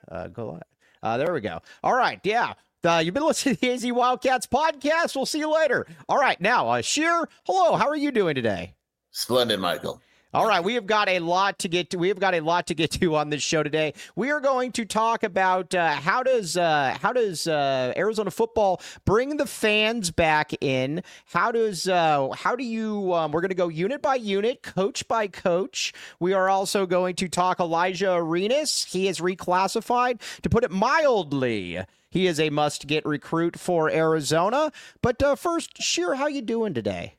go live. There we go. All right. Yeah. You've been listening to the AZ Wildcats podcast. We'll see you later. All right. Now, Sheer, hello. How are you doing today? Splendid, Michael. All right, we have got a lot to get to. We have got a lot to get to on this show today. We are going to talk about how does Arizona football bring the fans back in? How do you? We're going to go unit by unit, coach by coach. We are also going to talk Elijah Arenas. He is reclassified, to put it mildly. He is a must-get recruit for Arizona. But first, Sheer, how you doing today?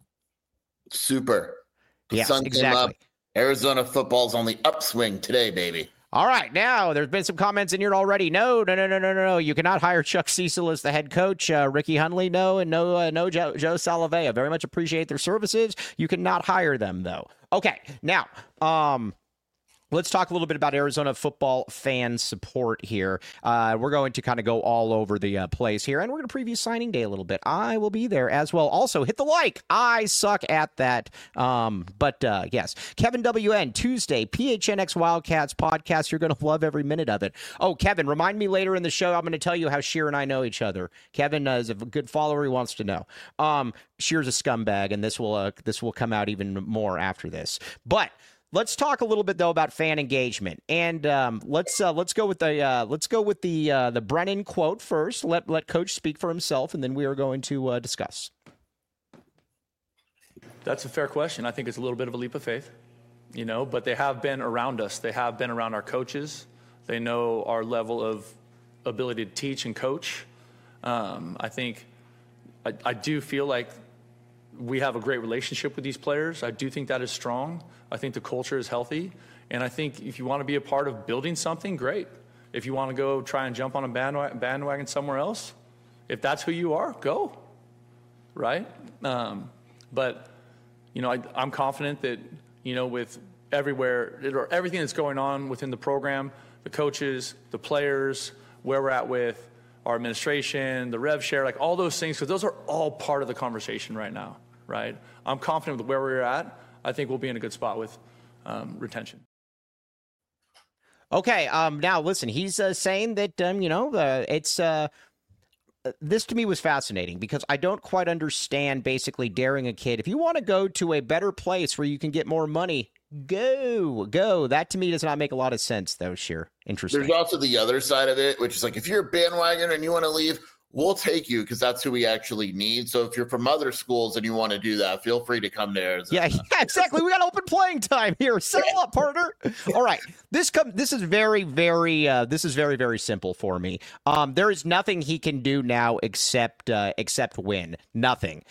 Super. The yes, sun exactly. came up. Arizona football's on the upswing today, baby. All right, now there's been some comments in here already. No. You cannot hire Chuck Cecil as the head coach. Ricky Hundley, no, and no Joe Salavea. Very much appreciate their services. You cannot hire them though. Okay, now let's talk a little bit about Arizona football fan support here. We're going to kind of go all over the place here, and we're going to preview signing day a little bit. I will be there as well. Also, hit the like. I suck at that. But yes, Kevin WN, Tuesday, PHNX Wildcats podcast. You're going to love every minute of it. Oh, Kevin, remind me later in the show. I'm going to tell you how Sheer and I know each other. Kevin is a good follower. He wants to know. Sheer's a scumbag, and this will come out even more after this. But let's talk a little bit though about fan engagement, and let's go with the Brennan quote first. Let Coach speak for himself, and then we are going to discuss. That's a fair question. I think it's a little bit of a leap of faith, but they have been around us. They have been around our coaches. They know our level of ability to teach and coach. I think I do feel like we have a great relationship with these players. I do think that is strong. I think the culture is healthy. And I think if you want to be a part of building something, great. If you want to go try and jump on a bandwagon somewhere else, if that's who you are, go. Right? But, I'm confident that, with everything that's going on within the program, the coaches, the players, where we're at with our administration, the rev share, like all those things, because those are all part of the conversation right now, right? I'm confident with where we're at. I think we'll be in a good spot with retention. Okay, now listen, he's saying that, it's this to me was fascinating because I don't quite understand basically daring a kid. If you want to go to a better place where you can get more money, go. That to me does not make a lot of sense, though, Sheer. Interesting. There's also the other side of it, which is like if you're a bandwagoner and you want to leave, we'll take you because that's who we actually need. So if you're from other schools and you want to do that, feel free to come to Arizona. Yeah, exactly. We got open playing time here. Settle up, partner. All right. This is very, very very simple for me. There is nothing he can do now except win. Nothing.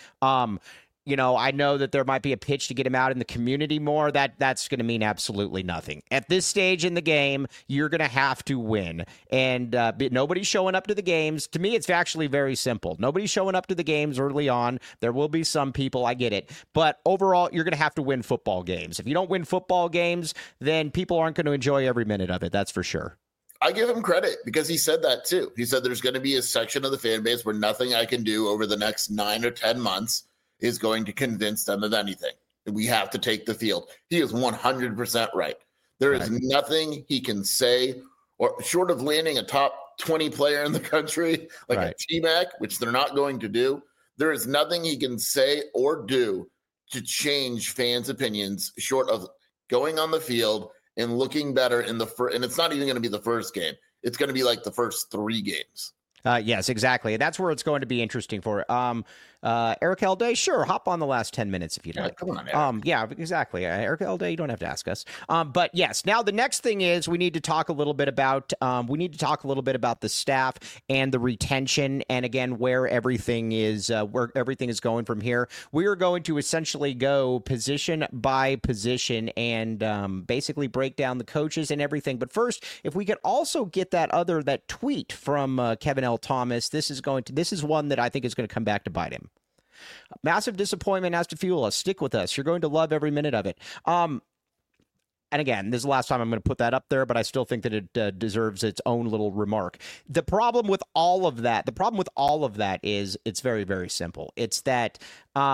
I know that there might be a pitch to get him out in the community more. That's going to mean absolutely nothing. At this stage in the game, you're going to have to win. And nobody's showing up to the games. To me, it's actually very simple. Nobody's showing up to the games early on. There will be some people. I get it. But overall, you're going to have to win football games. If you don't win football games, then people aren't going to enjoy every minute of it. That's for sure. I give him credit because he said that too. He said there's going to be a section of the fan base where nothing I can do over the next 9 or 10 months is going to convince them of anything. We have to take the field. He is 100% right. There is nothing he can say, or short of landing a top 20 player in the country, like a T-Mac, which they're not going to do. There is nothing he can say or do to change fans' opinions short of going on the field and looking better in the first. And it's not even going to be the first game. It's going to be like the first 3 games. Yes, exactly. That's where it's going to be interesting for Eric Elday. Sure, hop on the last 10 minutes if you'd like. Come on, Eric. Yeah, exactly. Eric Elday, you don't have to ask us. But yes, now the next thing is we need to talk a little bit about the staff and the retention, and again where everything is going from here. We are going to essentially go position by position and basically break down the coaches and everything. But first, if we could also get that tweet from Kevin L. Thomas, this is one that I think is going to come back to bite him. Massive disappointment has to fuel us. Stick with us. You're going to love every minute of it. And again, this is the last time I'm going to put that up there, but I still think that it deserves its own little remark. The problem with all of that is it's very, very simple. It's that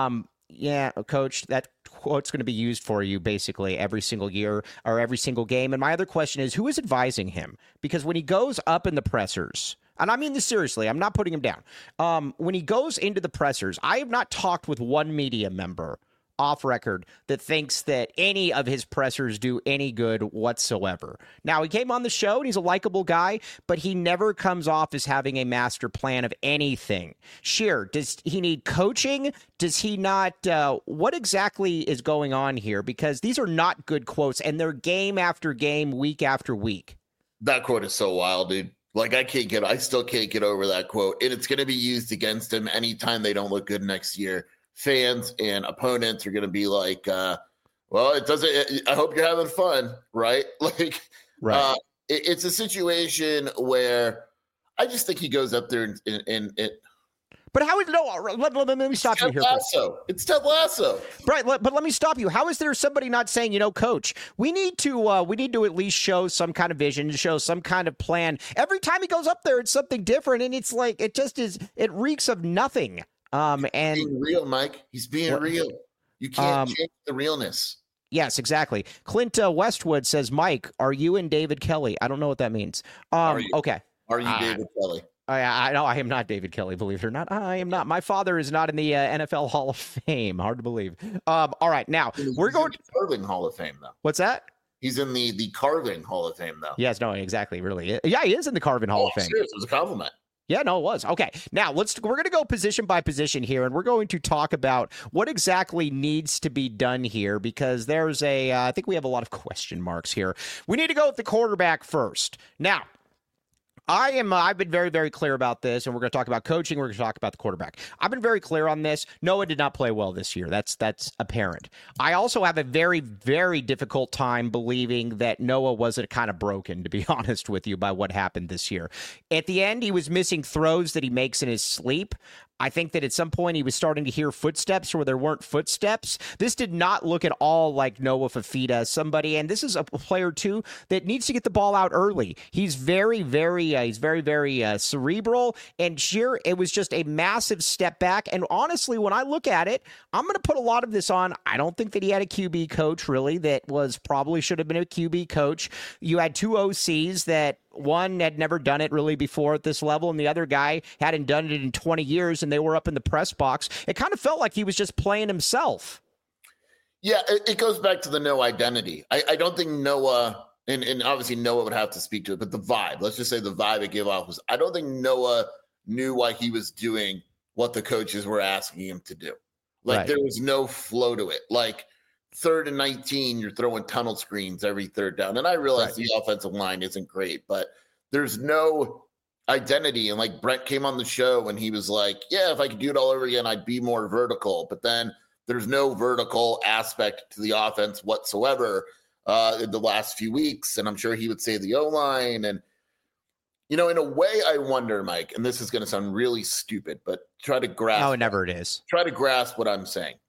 yeah, coach, that quote's going to be used for you basically every single year or every single game. And my other question is, who is advising him? Because when he goes up in the pressers, and I mean this seriously, I'm not putting him down. When he goes into the pressers, I have not talked with one media member off record that thinks that any of his pressers do any good whatsoever. Now, he came on the show and he's a likable guy, but he never comes off as having a master plan of anything. Scheer, does he need coaching? Does he not? What exactly is going on here? Because these are not good quotes, and they're game after game, week after week. That quote is so wild, dude. Like, I still can't get over that quote. And it's going to be used against him anytime they don't look good next year. Fans and opponents are going to be like, well, I hope you're having fun, right? Like, right. It's a situation where I just think he goes up there and but how is let me stop you here. It's Ted Lasso. Right, but let me stop you. How is there somebody not saying, coach, we need to at least show some kind of vision, show some kind of plan. Every time he goes up there, it's something different, and it's like it reeks of nothing. And being real, Mike. He's being real. You can't change the realness. Yes, exactly. Clint Westwood says, Mike, are you and David Kelly? I don't know what that means. Okay. Are you David Kelly? I know I am not David Kelly, believe it or not. I am not. My father is not in the NFL Hall of Fame. Hard to believe. All right, now we're going to Carving Hall of Fame, though. What's that? He's in the Carving Hall of Fame, though. Yes, no, exactly. Really, yeah, he is in the Carving Hall of Fame. Serious, it was a compliment. Yeah, no, it was. Okay. Now we're going to go position by position here, and we're going to talk about what exactly needs to be done here, because there's I think we have a lot of question marks here. We need to go with the quarterback first. Now, I've been very, very clear about this, and we're going to talk about coaching. We're going to talk about the quarterback. I've been very clear on this. Noah did not play well this year. That's apparent. I also have a very, very difficult time believing that Noah wasn't kind of broken, to be honest with you, by what happened this year. At the end, he was missing throws that he makes in his sleep. I think that at some point he was starting to hear footsteps where there weren't footsteps. This did not look at all like Noah Fifita, somebody, and this is a player too that needs to get the ball out early. He's very, very cerebral, and Scheer, it was just a massive step back. And honestly, when I look at it, I'm going to put a lot of this on. I don't think that he had a QB coach really that probably should have been a QB coach. You had two OCs that one had never done it really before at this level, and the other guy hadn't done it in 20 years, and they were up in the press box. It kind of felt like he was just playing himself. Yeah, it goes back to the no identity. I don't think Noah, and obviously Noah would have to speak to it, but the vibe, let's just say the vibe it gave off was, I don't think Noah knew why he was doing what the coaches were asking him to do. Like, right. There was no flow to it. Like, 3rd and 19, you're throwing tunnel screens every third down. And I realize the offensive line isn't great, but there's no identity. And like Brent came on the show and he was like, yeah, if I could do it all over again, I'd be more vertical. But then there's no vertical aspect to the offense whatsoever in the last few weeks. And I'm sure he would say the O-line. And, in a way, I wonder, Mike, and this is going to sound really stupid, but try to grasp. No, never it is. Try to grasp what I'm saying.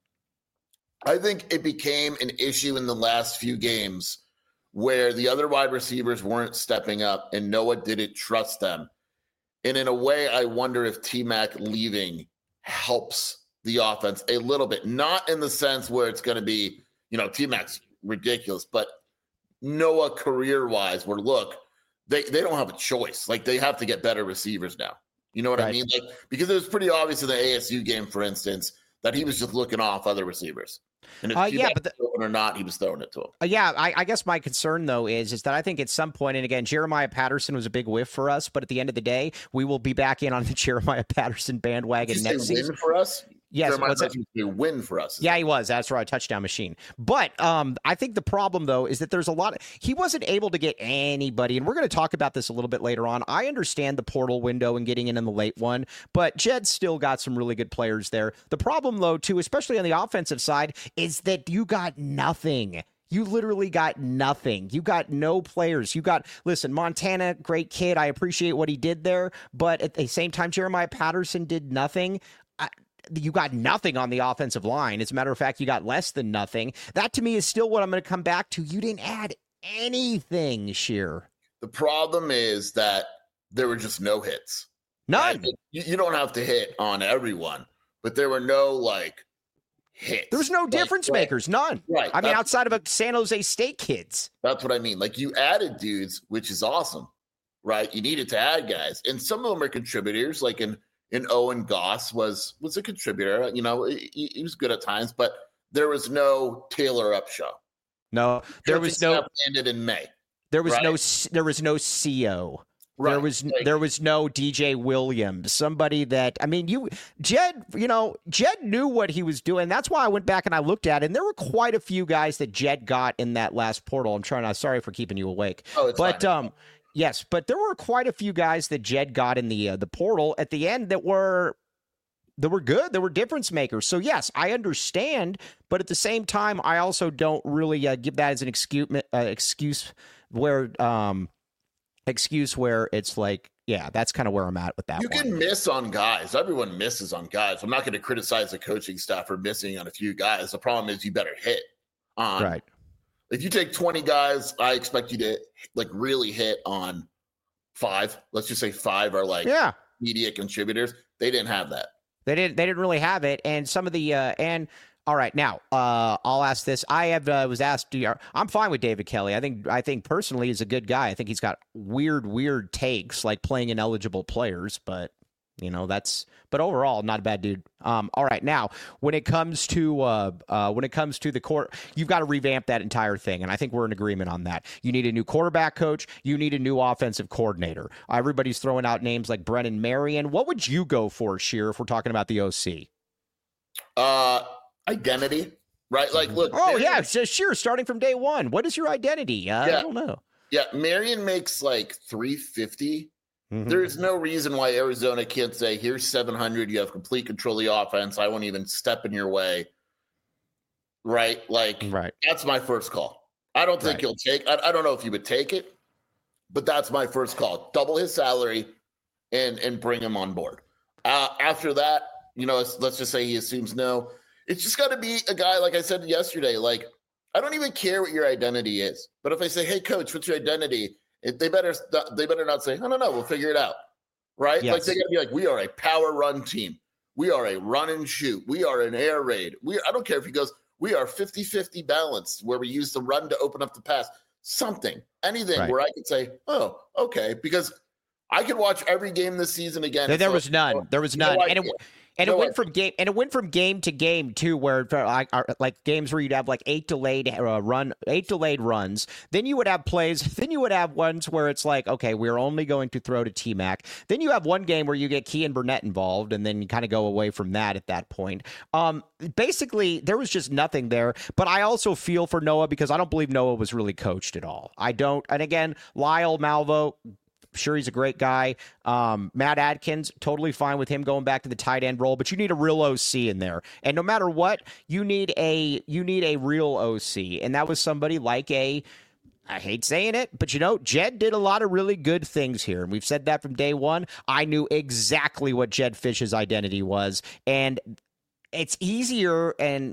I think it became an issue in the last few games where the other wide receivers weren't stepping up and Noah didn't trust them. And in a way, I wonder if T-Mac leaving helps the offense a little bit. Not in the sense where it's going to be, T-Mac's ridiculous, but Noah career-wise, where look, they don't have a choice. Like, they have to get better receivers now. You know what I mean? Like, because it was pretty obvious in the ASU game, for instance, that he was just looking off other receivers. And if or not, he was throwing it to him. I guess my concern, though, is that I think at some point, and again, Jeremiah Patterson was a big whiff for us, but at the end of the day, we will be back in on the Jeremiah Patterson bandwagon next season. For us? Yes, what's that? A win for us. Yeah, he was. That's right, touchdown machine. But I think the problem, though, is that there's a lot. He wasn't able to get anybody, and we're going to talk about this a little bit later on. I understand the portal window and getting in the late one, but Jed's still got some really good players there. The problem, though, too, especially on the offensive side, is that you got nothing. You literally got nothing. You got no players. Listen, Montana, great kid. I appreciate what he did there, but at the same time, Jeremiah Patterson did nothing. You got nothing on the offensive line. As a matter of fact, you got less than nothing. That, to me, is still what I'm going to come back to. You didn't add anything, Scheer. The problem is that there were just no hits. None. Right? You don't have to hit on everyone, but there were no, hits. There was no difference makers, none. Right. I mean, outside of a San Jose State kids. That's what I mean. Like, you added dudes, which is awesome, right? You needed to add guys, and some of them are contributors. Like in Owen Goss was a contributor. You know, he was good at times, but there was no Taylor Upshaw. No, there was no. Landed in May. There was there was no CO. Right. There was no DJ Williams, somebody that, I mean, Jed knew what he was doing. That's why I went back and I looked at it, and there were quite a few guys that Jed got in that last portal. Sorry for keeping you awake. Oh, it's fine. Yes, but there were quite a few guys that Jed got in the portal at the end that were good. They were difference makers. So yes, I understand, but at the same time, I also don't really give that as an excuse where it's like, yeah, that's kind of where I'm at with that. You can miss on guys. Everyone misses on guys. I'm not going to criticize the coaching staff for missing on a few guys. The problem is you better hit on. Right. If you take 20 guys, I expect you to really hit on 5. Let's just say 5 are media contributors. They didn't have that. They didn't really have it. And some of the all right, now I'll ask this. I was asked. I'm fine with David Kelly. I think personally he's a good guy. I think he's got weird takes like playing ineligible players, but but overall not a bad dude. All right, now when it comes to the court, you've got to revamp that entire thing, and I think we're in agreement on that. You need a new quarterback coach. You need a new offensive coordinator. Everybody's throwing out names like Brennan Marion. What would you go for, Sheer, if we're talking about the OC? Identity, right? Like, look. Oh, yeah, sure. Starting from day one. What is your identity? I don't know. Yeah, Marion makes like $350. Mm-hmm. There's no reason why Arizona can't say, here's $700. You have complete control of the offense. I won't even step in your way. Right? Like, That's my first call. I don't think he'll take. I don't know if he would take it, but that's my first call. Double his salary and bring him on board. After that, let's just say he assumes no. It's just got to be a guy, like I said yesterday, like, I don't even care what your identity is. But if I say, hey, coach, what's your identity? They better not say, I don't know, we'll figure it out. Right? Yes. Like, they got to be like, we are a power run team. We are a run and shoot. We are an air raid. I don't care if he goes, we are 50-50 balanced, where we use the run to open up the pass. Something, anything where I could say, oh, okay. Because I could watch every game this season again. There was none. There was none. And it went from game to game too, where like games where you'd have like 8 delayed runs. Then you would have plays. Then you would have ones where it's like, okay, we're only going to throw to T-Mac. Then you have one game where you get Kean Burnett involved, and then you kind of go away from that at that point. Basically, there was just nothing there. But I also feel for Noah because I don't believe Noah was really coached at all. I don't. And again, Lyle Malvo. Sure, he's a great guy. Matt Adkins, totally fine with him going back to the tight end role, but you need a real OC in there. And no matter what, you need a real OC. And that was somebody like I hate saying it, but Jed did a lot of really good things here. And we've said that from day one. I knew exactly what Jed Fish's identity was. And it's easier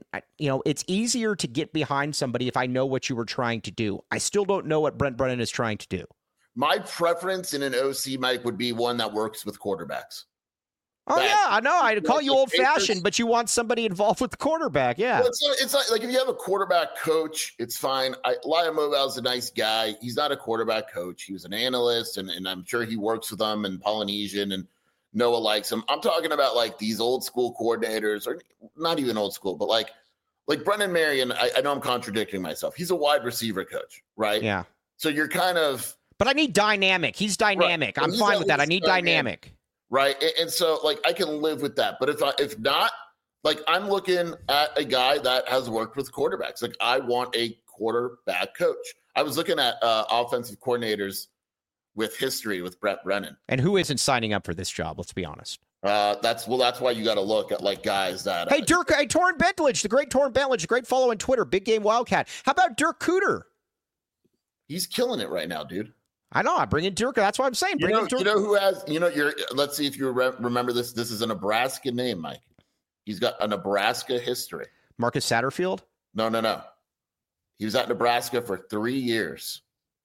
to get behind somebody if I know what you were trying to do. I still don't know what Brent Brennan is trying to do. My preference in an OC, Mike, would be one that works with quarterbacks. Oh, yeah, I know. I'd call you old-fashioned, but you want somebody involved with the quarterback, yeah. Well, it's like if you have a quarterback coach, it's fine. Lyle Moval's a nice guy. He's not a quarterback coach. He was an analyst, and I'm sure he works with them in Polynesian, and Noah likes him. I'm talking about, like, these old-school coordinators, or not even old school, but like Brennan Marion, I know I'm contradicting myself. He's a wide receiver coach, right? Yeah. So you're kind of – but I need dynamic. He's dynamic. Right. I'm fine with that. I need dynamic. Right. And so, like, I can live with that. But if not, like, I'm looking at a guy that has worked with quarterbacks. Like, I want a quarterback coach. I was looking at offensive coordinators with history with Brent Brennan. And who isn't signing up for this job? Let's be honest. That's why you got to look at, like, guys that. Hey, Torrin Bentlage, the great Torrin Bentlage, a great follow on Twitter, Big Game Wildcat. How about Dirk Cooter? He's killing it right now, dude. I know. I bring in Dirk. That's what I'm saying. You know who has, let's see if you remember this. This is a Nebraska name, Mike. He's got a Nebraska history. Marcus Satterfield? No. He was at Nebraska for 3 years.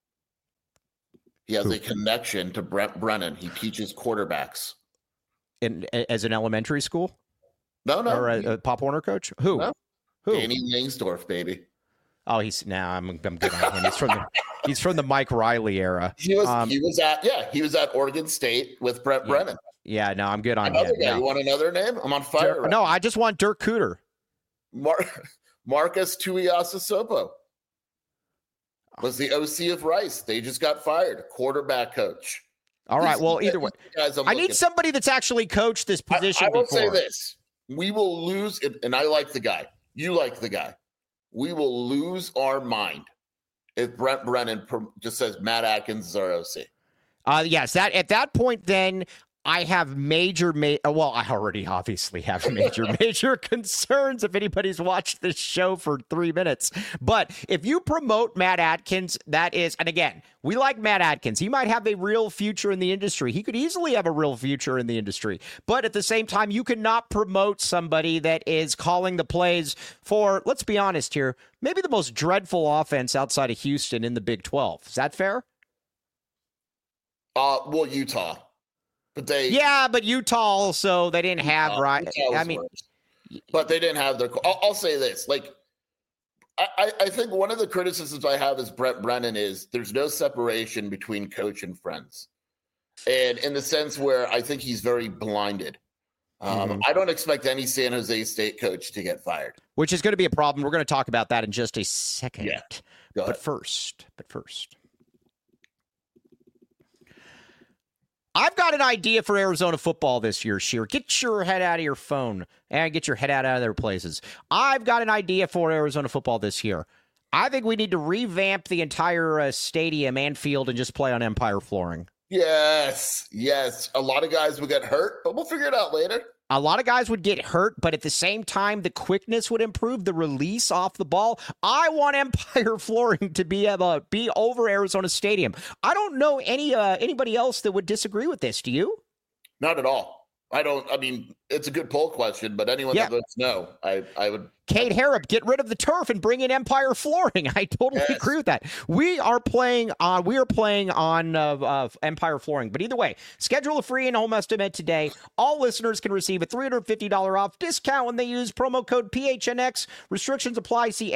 He has a connection to Brent Brennan. He teaches quarterbacks. As an elementary school? No. Or a Pop Warner coach? Who? No. Who? Danny Langsdorff, baby. Oh, I'm good on him. He's from the Mike Riley era. He was at Oregon State with Brett Brennan. Yeah, no, I'm good on Another him. guy. No. You want another name? I'm on fire. No, I just want Dirk Cooter. Marcus Tuiasosopo was the OC of Rice. They just got fired. Quarterback coach. All right. Well, either way, I need somebody that's actually coached this position. I will say this: we will lose, and I like the guy. You like the guy. We will lose our mind if Brent Brennan just says Matt Atkins is our OC. Yes, that at that point, then I have well, I already obviously have major concerns if anybody's watched this show for 3 minutes. But if you promote Matt Atkins, that is, and again, we like Matt Atkins. He might have a real future in the industry. He could easily have a real future in the industry. But at the same time, you cannot promote somebody that is calling the plays for, let's be honest here, maybe the most dreadful offense outside of Houston in the Big 12. Is that fair? Well, Utah. But Utah also, they didn't have, right? I mean, but they didn't have their, I'll say this, like, I think one of the criticisms I have as Brent Brennan is there's no separation between coach and friends. And in the sense where I think he's very blinded. I don't expect any San Jose State coach to get fired. Which is going to be a problem. We're going to talk about that in just a second. Yeah. But first. I've got an idea for Arizona football this year, Sheer. Get your head out of your phone and get your head out of other places. I've got an idea for Arizona football this year. I think we need to revamp the entire stadium and field and just play on Empire flooring. Yes. A lot of guys will get hurt, but we'll figure it out later. A lot of guys would get hurt, but at the same time, the quickness would improve, the release off the ball. I want Empire flooring to be over Arizona Stadium. I don't know anybody else that would disagree with this. Do you? Not at all. I mean, it's a good poll question, but anyone that votes no, I would. Kate Harrop, get rid of the turf and bring in Empire flooring. I totally agree with that. We are playing on Empire flooring. But either way, schedule a free in-home estimate today. All listeners can receive a $350 off discount when they use promo code PHNX. Restrictions apply. See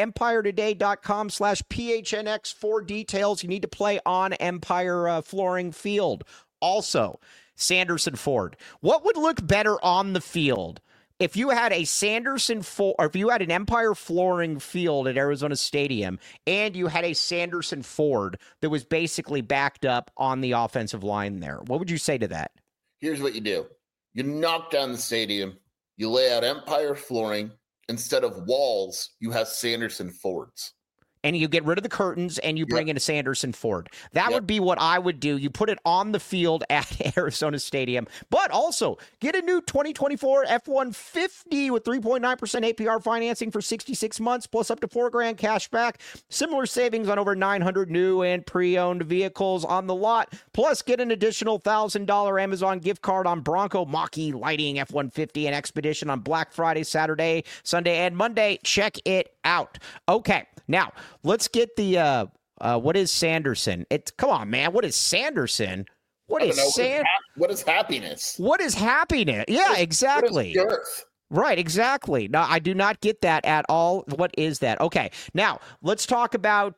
EmpireToday.com/PHNX for details. You need to play on Empire flooring field. Also, Sanderson Ford. What would look better on the field if you had a Sanderson Ford, or if you had an Empire flooring field at Arizona Stadium and you had a Sanderson Ford that was basically backed up on the offensive line there? What would you say to that? Here's what you do. You knock down the stadium. You lay out Empire flooring. Instead of walls, you have Sanderson Fords. And you get rid of the curtains and you bring in a Sanderson Ford. That would be what I would do. You put it on the field at Arizona Stadium, but also get a new 2024 F-150 with 3.9% APR financing for 66 months, plus up to $4,000 cash back. Similar savings on over 900 new and pre-owned vehicles on the lot. Plus, get an additional $1,000 Amazon gift card on Bronco, Mach-E, Lighting, F-150, and Expedition on Black Friday, Saturday, Sunday, and Monday. Check it out. Okay. Now, let's get the, what is Sanderson? Come on, man. What is Sanderson? What is happiness? What is happiness? Yeah, exactly. What is girth? Right, exactly. No, I do not get that at all. What is that? Okay, now let's talk about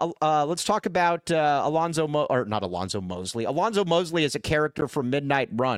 Alonzo Mosley. Alonzo Mosley is a character from Midnight Run.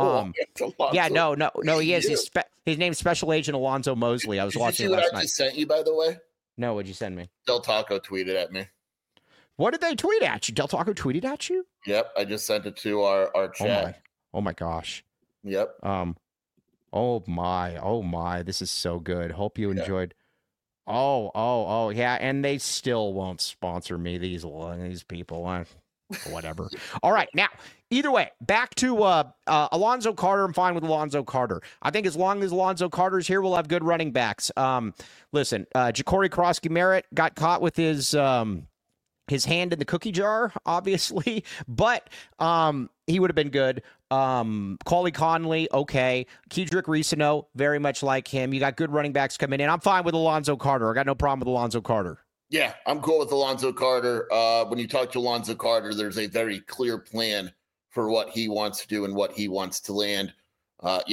He is. His name's Special Agent Alonzo Mosley. I was watching it last night. I just sent you, by the way. No, what'd you send me? Del Taco tweeted at me. What did they tweet at you? Del Taco tweeted at you? Yep, I just sent it to our chat. Oh my gosh. Yep. Oh my, this is so good. Hope you enjoyed. Oh, yeah, and they still won't sponsor me, these people. Whatever. All right, now, either way, back to Alonzo Carter. I'm fine with Alonzo Carter. I think as long as Alonzo Carter's here, we'll have good running backs. Listen, Ja'Cory Krosky-Merritt got caught with his hand in the cookie jar, obviously, but he would have been good. Cauley Conley, okay. Kedrick Reesano, very much like him. You got good running backs coming in. I'm fine with Alonzo Carter. I got no problem with Alonzo Carter. Yeah, I'm cool with Alonzo Carter. When you talk to Alonzo Carter, there's a very clear plan for what he wants to do and what he wants to land. I'm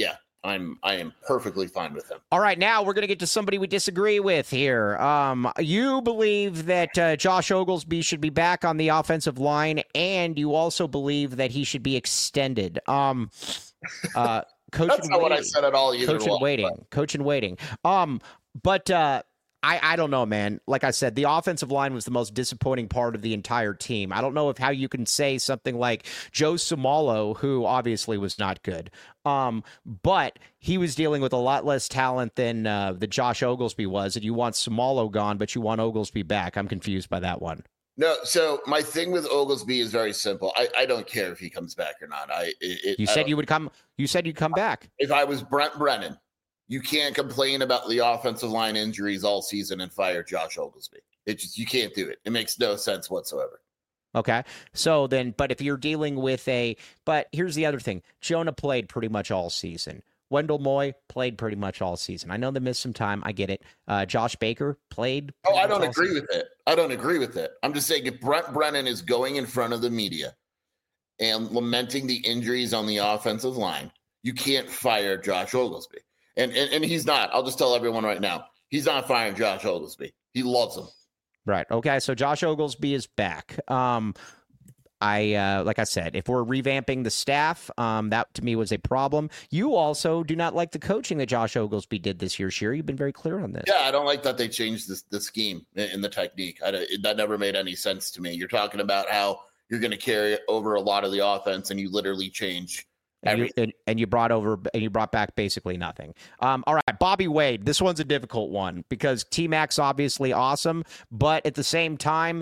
I am perfectly fine with him. All right, now we're going to get to somebody we disagree with here. You believe that Josh Oglesby should be back on the offensive line, and you also believe that he should be extended. Coach That's not what I said at all. Coach in waiting. But I don't know, man. Like I said, the offensive line was the most disappointing part of the entire team. I don't know how you can say something like Joe Somalo, who obviously was not good. But he was dealing with a lot less talent than the Josh Oglesby was, and you want Somalo gone, but you want Oglesby back. I'm confused by that one. No, so my thing with Oglesby is very simple. I don't care if he comes back or not. You said you'd come back. If I was Brent Brennan, you can't complain about the offensive line injuries all season and fire Josh Oglesby. You can't do it. It makes no sense whatsoever. Okay. So then, but if you're dealing with but here's the other thing. Jonah played pretty much all season. Wendell Moy played pretty much all season. I know they missed some time. I get it. Josh Baker played. I don't agree with it. I don't agree with it. I'm just saying if Brent Brennan is going in front of the media and lamenting the injuries on the offensive line, you can't fire Josh Oglesby. And he's not. I'll just tell everyone right now. He's not firing Josh Oglesby. He loves him. Right. Okay. So Josh Oglesby is back. Like I said, if we're revamping the staff, that to me was a problem. You also do not like the coaching that Josh Oglesby did this year, Sherry. You've been very clear on this. Yeah, I don't like that they changed the scheme and the technique. That never made any sense to me. You're talking about how you're going to carry over a lot of the offense, and you literally change. And you brought back basically nothing. All right, Bobby Wade. This one's a difficult one because T-Mac's obviously awesome, but at the same time,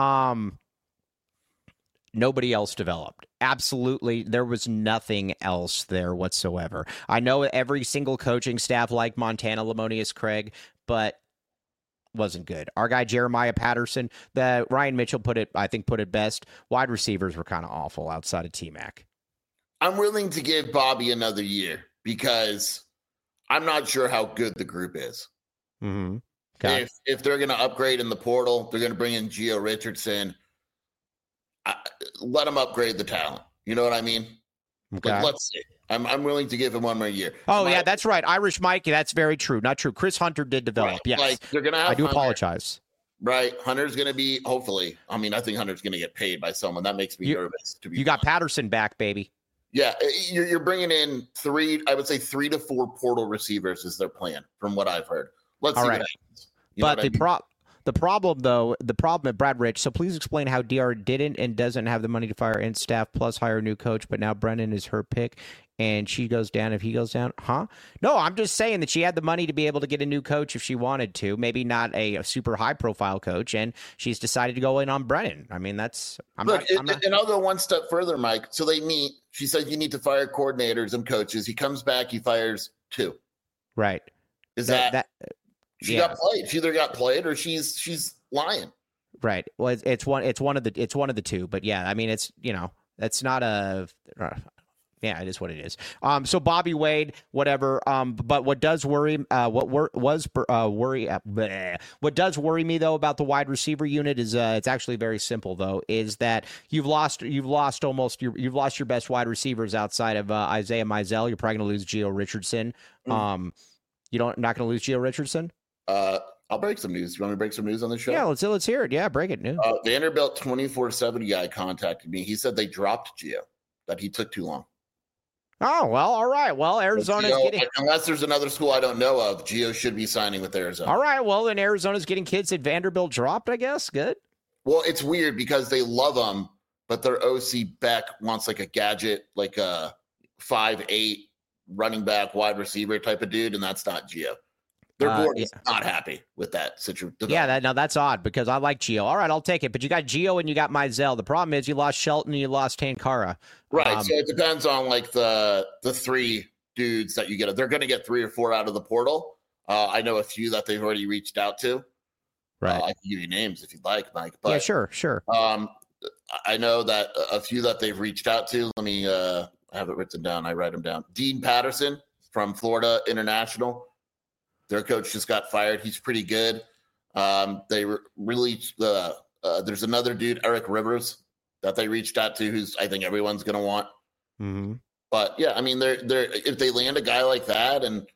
nobody else developed. Absolutely, there was nothing else there whatsoever. I know every single coaching staff like Montana Lamonius Craig, but wasn't good. Our guy Jeremiah Patterson, Ryan Mitchell put it best. Wide receivers were kind of awful outside of T-Mac. I'm willing to give Bobby another year because I'm not sure how good the group is. Mm-hmm. Okay. If they're going to upgrade in the portal, they're going to bring in Gio Richardson. Let him upgrade the talent. You know what I mean? Okay. Let's see. I'm willing to give him one more year. Yeah, that's right. Irish Mike, that's very true. Not true. Chris Hunter did develop. Right. Yes. Like, they're gonna have I do Hunter. Apologize. Right. Hunter's going to be, hopefully. I mean, I think Hunter's going to get paid by someone. That makes me nervous. You got Patterson back, baby. Yeah. You're bringing in 3 to 4 portal receivers is their plan, from what I've heard. Let's see what happens. But the problem at Brad Rich, so please explain how DR didn't and doesn't have the money to fire in staff plus hire a new coach, but now Brennan is her pick and she goes down if he goes down. Huh? No, I'm just saying that she had the money to be able to get a new coach if she wanted to, maybe not a super high profile coach, and she's decided to go in on Brennan. I mean, and I'll go one step further, Mike. So they meet. She said you need to fire coordinators and coaches. He comes back, he fires 2. Right. Is that she got played? She either got played or she's lying. Right. Well, it's one of the two. But yeah, I mean, it's that's not a. Yeah, it is what it is. So Bobby Wade, whatever. But what does worry what does worry me though about the wide receiver unit is it's actually very simple though. Is that you've lost your best wide receivers outside of Isaiah Mizell. You're probably going to lose Gio Richardson. Not going to lose Gio Richardson. I'll break some news. You want me to break some news on the show? Yeah, let's hear it. Yeah, break it. News. Vanderbilt 24/7 guy contacted me. He said they dropped Gio, that he took too long. Oh, well, all right. Well, Arizona's getting... Unless there's another school I don't know of, Gio should be signing with Arizona. All right. Well, then Arizona's getting kids that Vanderbilt dropped, I guess. Good. Well, it's weird because they love him, but their OC Beck wants like a gadget, like a 5'8" running back, wide receiver type of dude, and that's not Gio. Their board is not happy with that situation. Yeah, that's odd because I like Gio. All right, I'll take it. But you got Gio and you got Mizell. The problem is you lost Shelton and you lost Tankara. Right. So it depends on like the 3 dudes that you get. They're going to get 3 or 4 out of the portal. I know a few that they've already reached out to. Right. I can give you names if you'd like, Mike. But, yeah, sure. I know that a few that they've reached out to. Let me I have it written down. I write them down. Dean Patterson from Florida International. Their coach just got fired. He's pretty good. They really there's another dude, Eric Rivers, that they reached out to, who's I think everyone's going to want. Mm-hmm. But yeah, I mean, they're if they land a guy like that, and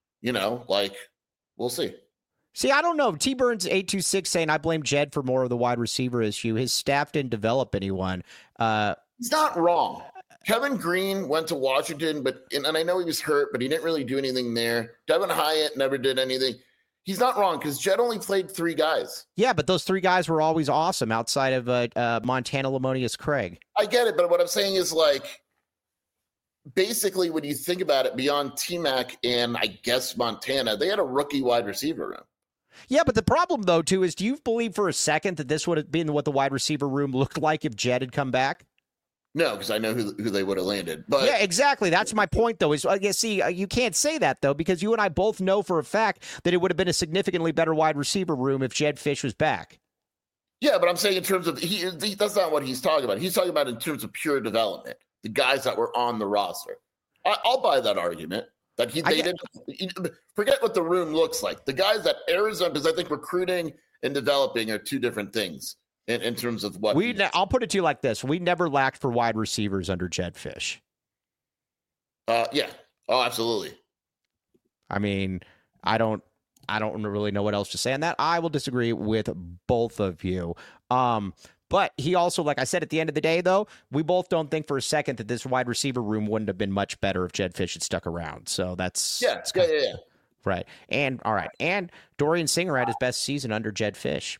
we'll see. See, I don't know. T Burns 826 saying I blame Jed for more of the wide receiver issue. His staff didn't develop anyone. He's not wrong. Kevin Green went to Washington, and I know he was hurt, but he didn't really do anything there. Devin Hyatt never did anything. He's not wrong because Jed only played 3 guys. Yeah, but those 3 guys were always awesome outside of Montana Lamonius Craig. I get it, but what I'm saying is basically when you think about it, beyond T-Mac and I guess Montana, they had a rookie wide receiver room. Yeah, but the problem, though, too, is do you believe for a second that this would have been what the wide receiver room looked like if Jed had come back? No, because I know who they would have landed. But yeah, exactly. That's my point, though. Is you can't say that, though, because you and I both know for a fact that it would have been a significantly better wide receiver room if Jed Fish was back. Yeah, but I'm saying in terms of that's not what he's talking about. He's talking about in terms of pure development, the guys that were on the roster. I'll buy that argument. They didn't forget what the room looks like. The guys that Arizona, because I think recruiting and developing are 2 different things in terms of what I'll put it to you like this: we never lacked for wide receivers under Jed Fish. Yeah. Oh, absolutely. I mean, I don't really know what else to say on that. I will disagree with both of you. But he also, like I said, at the end of the day, though, we both don't think for a second that this wide receiver room wouldn't have been much better if Jed Fish had stuck around. So that's yeah. Right. And all right. And Dorian Singer had his best season under Jed Fish.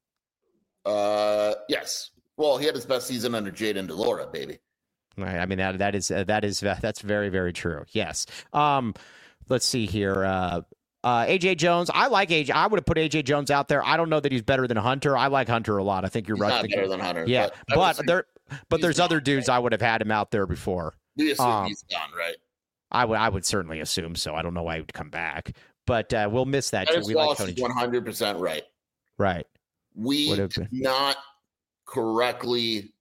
Yes. Well, he had his best season under Jaden DeLora, baby. Right. I mean, that's very, very true. Yes. Let's see here. AJ Jones. I like AJ. I would have put AJ Jones out there. I don't know that he's better than Hunter. I like Hunter a lot. I think you're he's right. Not better than Hunter. Yeah. But there's other dudes I would have had him out there before. We assume he's gone, right? I would certainly assume so. I don't know why he would come back, but we'll miss that. Dennis Wallace is 100% right. Right. We did not correctly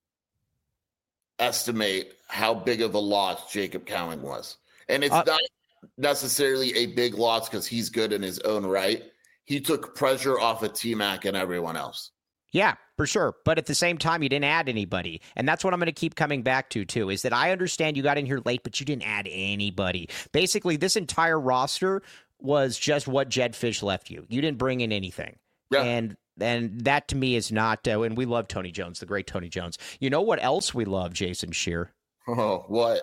estimate how big of a loss Jacob Cowing was. And it's not necessarily a big loss because he's good in his own right. He took pressure off of T-Mac and everyone else. Yeah, for sure. But at the same time, you didn't add anybody. And that's what I'm going to keep coming back to, too, is that I understand you got in here late, but you didn't add anybody. Basically, this entire roster was just what Jed Fish left you. You didn't bring in anything. Yeah. And that, to me, is not and we love Tony Jones, the great Tony Jones. You know what else we love, Jason Scheer? Oh, what?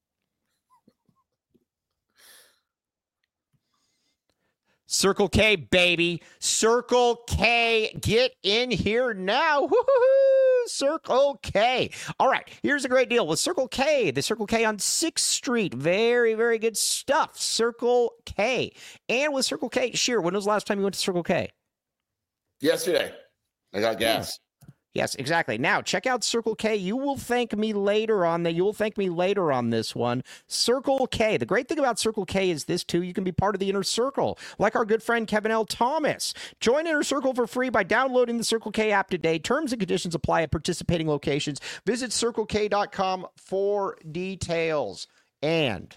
Circle K, baby. Circle K, get in here now. Woo-hoo-hoo. Circle K. All right, here's a great deal with Circle K. The Circle K on 6th Street. Very, very good stuff. Circle K. And with Circle K, Scheer, when was the last time you went to Circle K? Yesterday. I got gas. Yes, exactly. Now, check out Circle K. You will thank me later on that. You will thank me later on this one. Circle K. The great thing about Circle K is this, too. You can be part of the Inner Circle, like our good friend Kevin L. Thomas. Join Inner Circle for free by downloading the Circle K app today. Terms and conditions apply at participating locations. Visit CircleK.com for details. And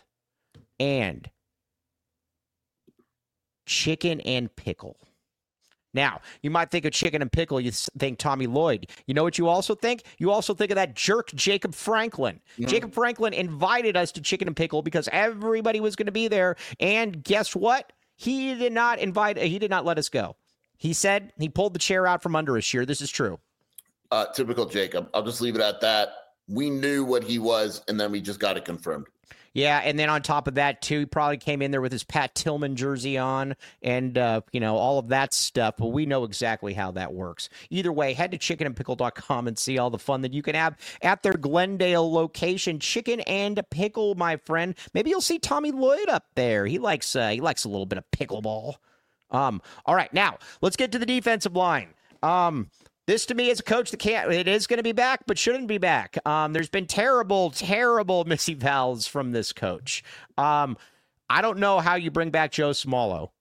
chicken and pickle. Now, you might think of chicken and pickle, you think Tommy Lloyd. You know what you also think? You also think of that jerk, Jacob Franklin. Mm-hmm. Jacob Franklin invited us to chicken and pickle because everybody was going to be there. And guess what? He did not let us go. He said he pulled the chair out from under us. Scheer. This is true. Typical Jacob. I'll just leave it at that. We knew what he was, and then we just got it confirmed. Yeah, and then on top of that, too, he probably came in there with his Pat Tillman jersey on and, all of that stuff. But we know exactly how that works. Either way, head to chickenandpickle.com and see all the fun that you can have at their Glendale location. Chicken and pickle, my friend. Maybe you'll see Tommy Lloyd up there. He likes a little bit of pickleball. All right, now, let's get to the defensive line. This, to me, is a coach that it is going to be back, but shouldn't be back. There's been terrible, terrible missy vowels from this coach. I don't know how you bring back Joe Smallot.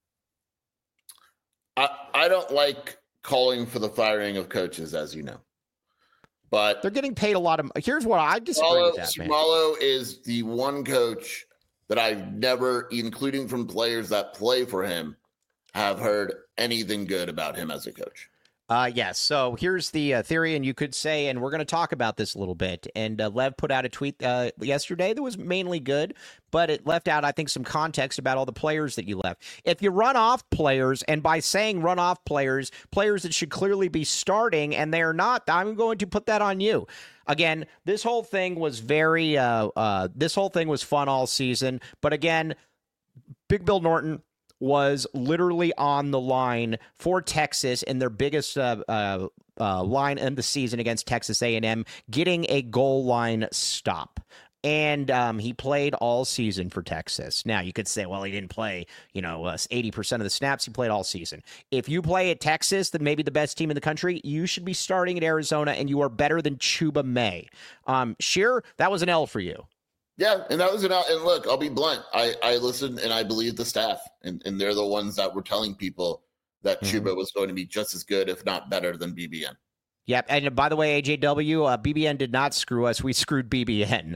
I don't like calling for the firing of coaches, as you know. But they're getting paid a lot of. Here's what I disagree with that, man. Smallot is the one coach that I've never, including from players that play for him, have heard anything good about him as a coach. Yes. So here's the theory, and you could say, and we're going to talk about this a little bit. And Lev put out a tweet yesterday that was mainly good, but it left out, I think, some context about all the players that you left. If you run off players, and by saying run off players that should clearly be starting, and they're not, I'm going to put that on you. Again, this whole thing was this whole thing was fun all season. But again, Big Bill Norton was literally on the line for Texas in their biggest line in the season against Texas A&M, getting a goal line stop. And he played all season for Texas. Now, you could say, well, he didn't play, 80% of the snaps. He played all season. If you play at Texas, then maybe the best team in the country, you should be starting at Arizona, and you are better than Chuba May. Shearer, that was an L for you. Yeah, and that was an out. And look, I'll be blunt. I listened and I believe the staff, and they're the ones that were telling people that Chuba was going to be just as good, if not better, than BBN. Yep, and by the way, AJW, BBN did not screw us. We screwed BBN.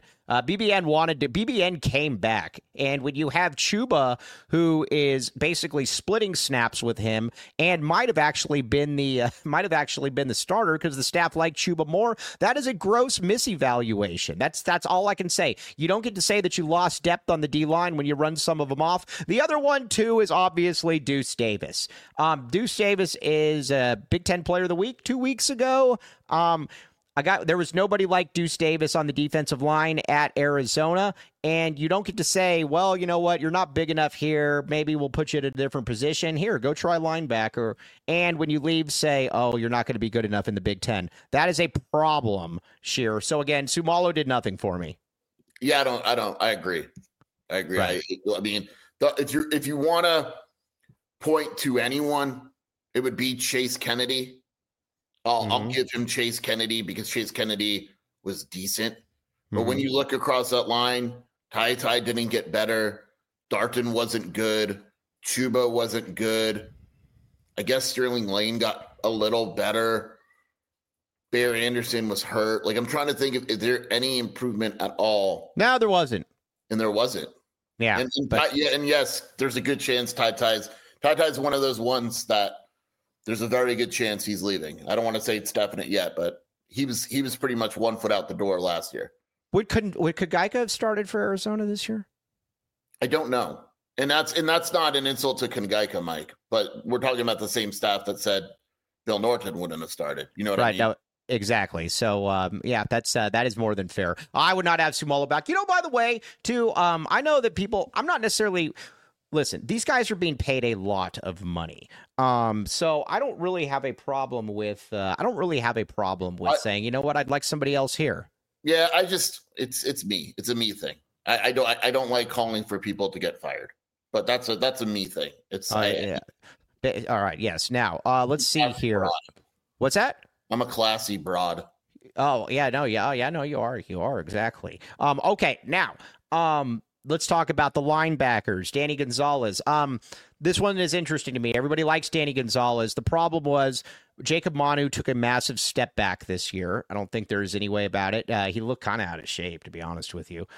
BBN came back, and when you have Chuba, who is basically splitting snaps with him, and might have actually been the starter because the staff liked Chuba more, that is a gross misevaluation. That's all I can say. You don't get to say that you lost depth on the D line when you run some of them off. The other one too is obviously Deuce Davis. Deuce Davis is a Big Ten Player of the Week 2 weeks ago. There was nobody like Deuce Davis on the defensive line at Arizona, and you don't get to say, well, you know what, you're not big enough here. Maybe we'll put you at a different position. Here, go try linebacker. And when you leave, say, oh, you're not going to be good enough in the Big Ten. That is a problem, Shearer. So again, Sumalo did nothing for me. Yeah, I agree. Right. I mean, if you want to point to anyone, it would be Chase Kennedy. I'll give him Chase Kennedy because Chase Kennedy was decent. But when you look across that line, Ty didn't get better. Darton wasn't good. Chuba wasn't good. I guess Sterling Lane got a little better. Bear Anderson was hurt. Like, I'm trying to think is there any improvement at all? No, there wasn't. And there wasn't. Yeah. And yes, there's a good chance Ty's one of those ones that there's a very good chance he's leaving. I don't want to say it's definite yet, but he was pretty much 1 foot out the door last year. Would Kugaika have started for Arizona this year? I don't know. And that's not an insult to Kugaika, Mike, but we're talking about the same staff that said Bill Norton wouldn't have started. You know what I mean? Exactly. So, that is more than fair. I would not have Sumalo back. By the way, too, I know that people, I'm not necessarily... Listen, these guys are being paid a lot of money. So I don't really have a problem with saying, you know what, I'd like somebody else here. Yeah, it's me. It's a me thing. I don't like calling for people to get fired. But that's a me thing. It's yeah. All right, yes. Now, let's see here. Broad. What's that? I'm a classy broad. Oh, yeah, no, yeah, no, you are. You are exactly. Okay, now, let's talk about the linebackers. Danny Gonzalez. This one is interesting to me. Everybody likes Danny Gonzalez. The problem was Jacob Manu took a massive step back this year. I don't think there's any way about it. He looked kind of out of shape, to be honest with you.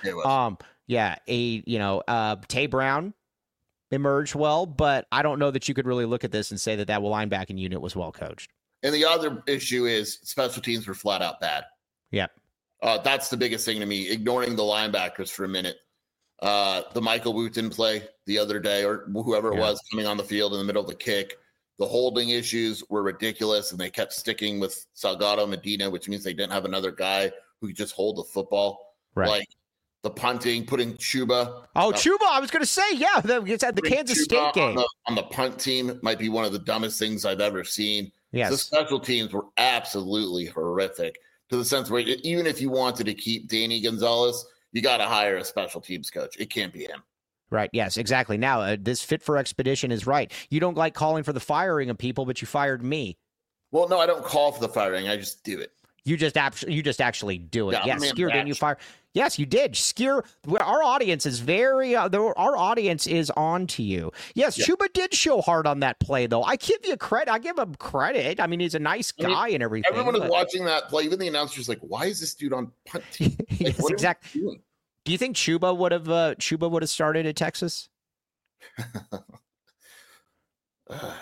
Tay Brown emerged well, but I don't know that you could really look at this and say that linebacking unit was well coached. And the other issue is special teams were flat out bad. Yep. That's the biggest thing to me, ignoring the linebackers for a minute. The Michael Wooten play the other day, or whoever it was coming on the field in the middle of the kick, the holding issues were ridiculous, and they kept sticking with Salgado Medina, which means they didn't have another guy who could just hold the football. Right. Like the punting, putting Chuba. Chuba, I was going to say, it's at the Kansas State game. On the punt team might be one of the dumbest things I've ever seen. Yes. The special teams were absolutely horrific, to the sense where even if you wanted to keep Danny Gonzalez, you got to hire a special teams coach. It can't be him. Right. Yes, exactly. Now, this Fit for Expedition is right. You don't like calling for the firing of people, but you fired me. Well, no, I don't call for the firing. I just do it. You just actually do it. Yeah, yes, Skier, didn't you fire? Yes, you did. Skier, our audience is our audience is on to you. Yes, Chuba did show hard on that play, though. I give you credit. I give him credit. I mean, he's a nice guy and everything. Everyone is watching that play. Even the announcer's like, why is this dude on punt team? Like, yes, exactly. Do you think Chuba would have started at Texas?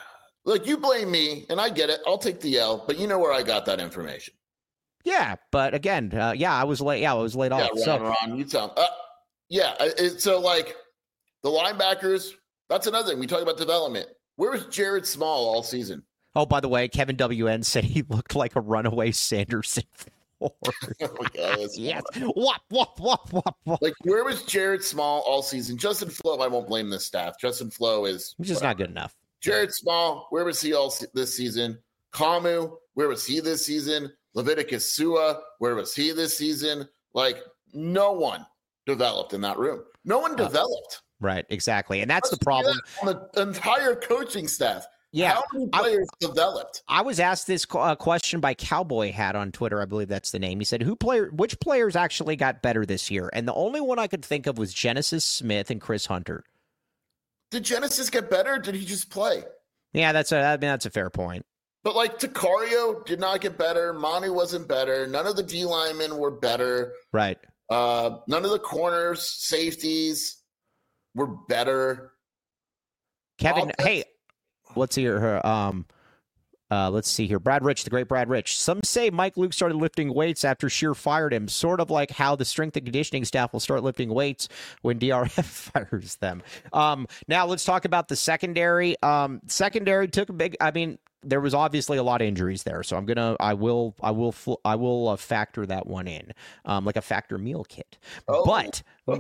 Look, you blame me, and I get it. I'll take the L, but you know where I got that information. Yeah, but again, I was late. Yeah, I was laid off. Ron, you tell him. So like the linebackers, that's another thing. We talk about development. Where was Jared Small all season? Oh, by the way, Kevin WN said he looked like a runaway Sanderson. Oh my God, yes. Wop, wop, wop, wop, wop. Like, where was Jared Small all season? Justin Flo, I won't blame the staff. Justin Flo is just not good enough. Jared Small, where was he all this season? Kamu, where was he this season? Leviticus Sua, where was he this season? Like, no one developed in that room. No one developed. Right, exactly. And that's the problem. On the entire coaching staff. Yeah. How many players developed? I was asked this question by Cowboy Hat on Twitter. I believe that's the name. He said, which players actually got better this year? And the only one I could think of was Genesis Smith and Chris Hunter. Did Genesis get better? Or did he just play? Yeah, that's a fair point. But like Takario did not get better. Manu wasn't better. None of the D linemen were better. Right. None of the corners, safeties were better. Kevin, hey, let's see here. Let's see here. Brad Rich, the great Brad Rich. Some say Mike Luke started lifting weights after Scheer fired him, sort of like how the strength and conditioning staff will start lifting weights when DRF fires them. Now let's talk about the secondary. Secondary took a big. I mean, there was obviously a lot of injuries there, so I will factor that one in, like a factor meal kit. But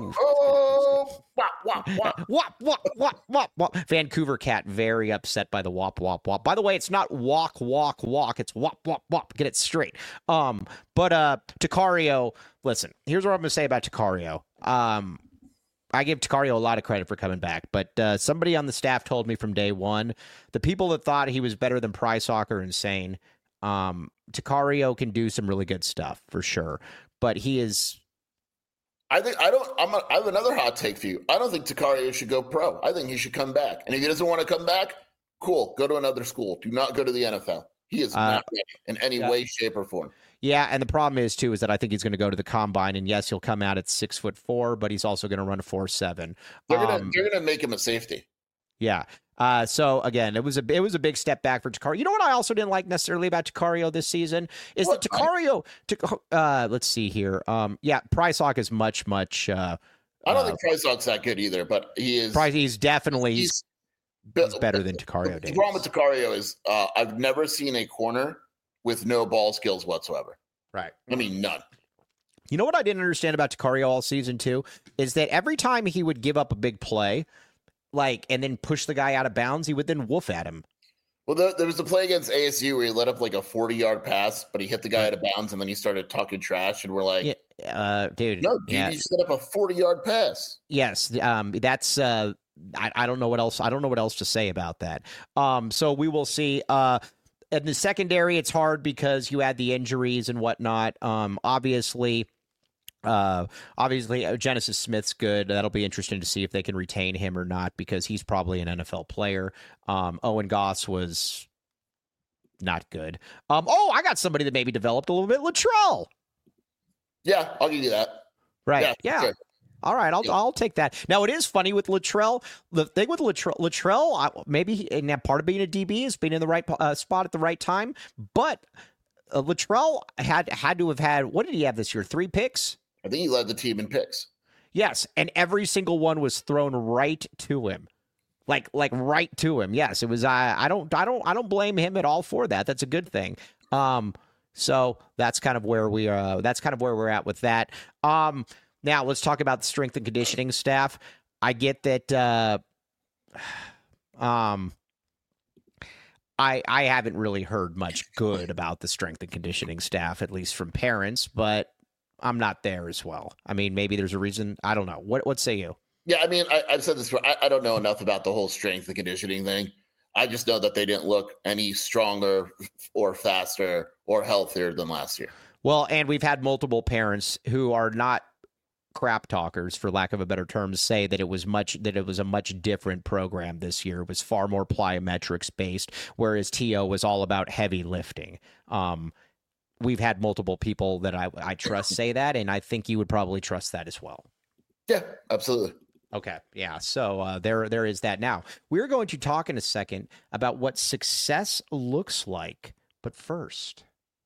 Vancouver Cat very upset by the wop wop wop. By the way, it's not walk walk walk. It's wop wop wop. Get it straight. But Takario, listen. Here's what I'm gonna say about Takario. I give Takario a lot of credit for coming back, but somebody on the staff told me from day one, the people that thought he was better than Price are insane. Takario can do some really good stuff for sure, but he is. I have another hot take for you. I don't think Takario should go pro. I think he should come back. And if he doesn't want to come back, cool. Go to another school. Do not go to the NFL. He is not ready in any way, shape, or form. Yeah, and the problem is too is that I think he's going to go to the combine, and yes, he'll come out at 6'4", but he's also going to run a 4.7. They're gonna make him a safety. Yeah. So again, it was a big step back for Takario. You know what I also didn't like necessarily about Takario this season is that Takario. Let's see here. Price Hawk is much. I don't think Price Hawk's that good either, but he is. He's definitely he's better than Takario. The problem with Takario is I've never seen a corner with no ball skills whatsoever. Right. I mean, none. You know what I didn't understand about Takario all season too is that every time he would give up a big play, and then push the guy out of bounds, he would then woof at him. Well, there was a play against ASU where he let up like a 40-yard pass, but he hit the guy out of bounds, and then he started talking trash, and we're like, dude, no, dude, you set up a 40-yard pass. Yes, that's. I don't know what else. I don't know what else to say about that. So we will see. In the secondary, it's hard because you had the injuries and whatnot. Obviously, Genesis Smith's good. That'll be interesting to see if they can retain him or not because he's probably an NFL player. Owen Goss was not good. I got somebody that maybe developed a little bit. Latrell. Yeah, I'll give you that. Right. Yeah. Sure. All right, I'll take that. Now, it is funny with Latrell. The thing with Latrell, maybe part of being a DB is being in the right spot at the right time. But Latrell had to have had, what did he have this year? 3 picks? I think he led the team in picks. Yes, and every single one was thrown right to him. Like right to him. Yes, it was. I don't blame him at all for that. That's a good thing. So that's kind of where we are. That's kind of where we're at with that. Now let's talk about the strength and conditioning staff. I get that. I haven't really heard much good about the strength and conditioning staff, at least from parents, but I'm not there as well. I mean, maybe there's a reason. I don't know. What say you? Yeah, I mean, I've said this before. I don't know enough about the whole strength and conditioning thing. I just know that they didn't look any stronger or faster or healthier than last year. Well, and we've had multiple parents who are not crap talkers, for lack of a better term, say that it was a much different program this year. It was far more plyometrics based, whereas TO was all about heavy lifting. We've had multiple people that I trust say that, and I think you would probably trust that as well. Yeah, absolutely. Okay. Yeah. So there is that. Now, we're going to talk in a second about what success looks like. But first,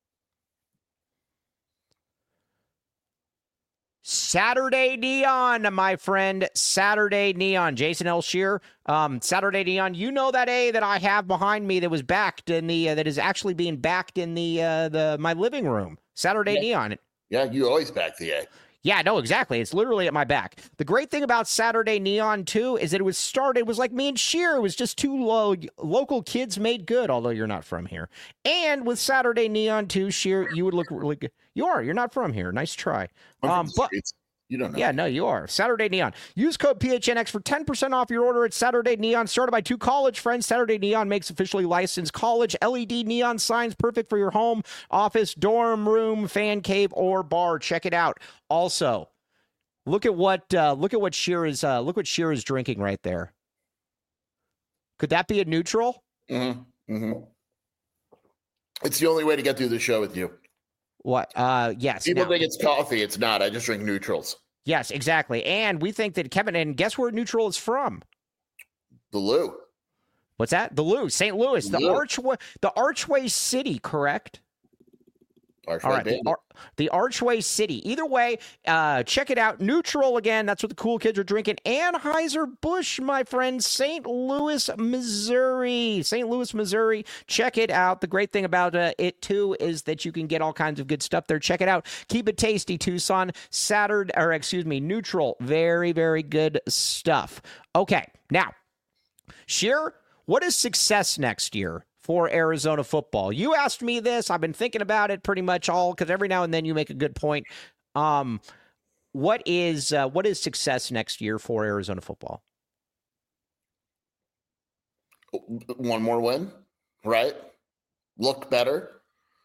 Saturday Neon, my friend. Saturday Neon. Jason L. Shear. Saturday Neon. You know that A that I have behind me that was backed in the that is actually being backed in the my living room. Saturday Neon. Yeah, you always back the A. Yeah, no, exactly. It's literally at my back. The great thing about Saturday Neon, too, is that it was like me and Sheer. It was just two local kids made good, although you're not from here. And with Saturday Neon, too, Sheer, you would look really good. You're not from here. Nice try. But you don't know. Yeah, no, you are. Saturday Neon. Use code PHNX for 10% off your order at Saturday Neon. Started by two college friends, Saturday Neon makes officially licensed college LED neon signs perfect for your home, office, dorm room, fan cave, or bar. Check it out. Also, look at what Sheer is drinking right there. Could that be a neutral? Mm-hmm. Mm-hmm. It's the only way to get through the show with you. What? Yes. People think it's coffee. It's not. I just drink neutrals. Yes, exactly. And we think that Kevin, and guess where neutral is from? The Lou. What's that? The Lou, St. Louis, the Archway City, correct? Archway, all right, the Archway City. Either way, check it out. Neutral again. That's what the cool kids are drinking. Anheuser-Busch, my friend, St. Louis, Missouri. St. Louis, Missouri. Check it out. The great thing about it too is that you can get all kinds of good stuff there. Check it out. Keep it tasty, Tucson. Neutral. Very, very good stuff. Okay, now, Sheer, what is success next year for Arizona football? You asked me this. I've been thinking about it pretty much all, because every now and then you make a good point. What is success next year for Arizona football? One more win, right? Look better,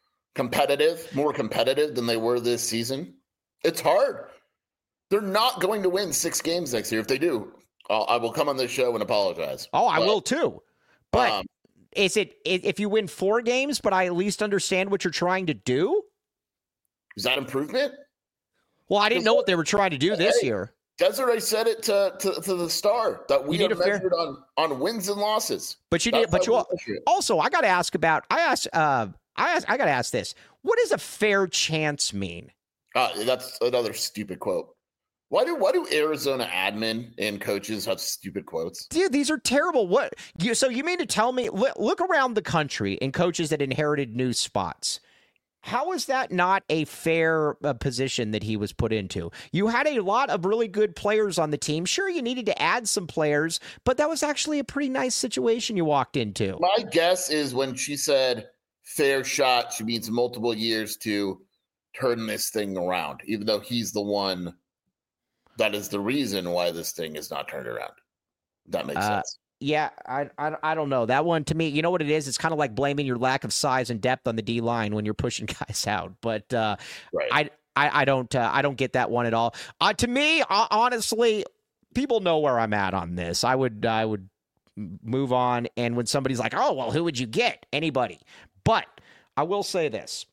more competitive than they were this season. It's hard. They're not going to win 6 games next year. If they do, I will come on this show and apologize. Oh, I will too. But is it if you win 4 games, but I at least understand what you're trying to do? Is that improvement? Well, I didn't know what they were trying to do this year. Desiree said it to the Star that we are measured on wins and losses. But also, I got to ask about. I got to ask this. What does a fair chance mean? That's another stupid quote. Why do Arizona admin and coaches have stupid quotes? Dude, these are terrible. So you mean to tell me, look around the country and coaches that inherited new spots. How is that not a fair position that he was put into? You had a lot of really good players on the team. Sure, you needed to add some players, but that was actually a pretty nice situation you walked into. My guess is when she said fair shot, she means multiple years to turn this thing around, even though he's the one that is the reason why this thing is not turned around. That makes sense. Yeah, I don't know. That one, to me, you know what it is? It's kind of like blaming your lack of size and depth on the D-line when you're pushing guys out. But right. I don't get that one at all. To me, honestly, people know where I'm at on this. I would move on. And when somebody's like, oh, well, who would you get? Anybody. But I will say this.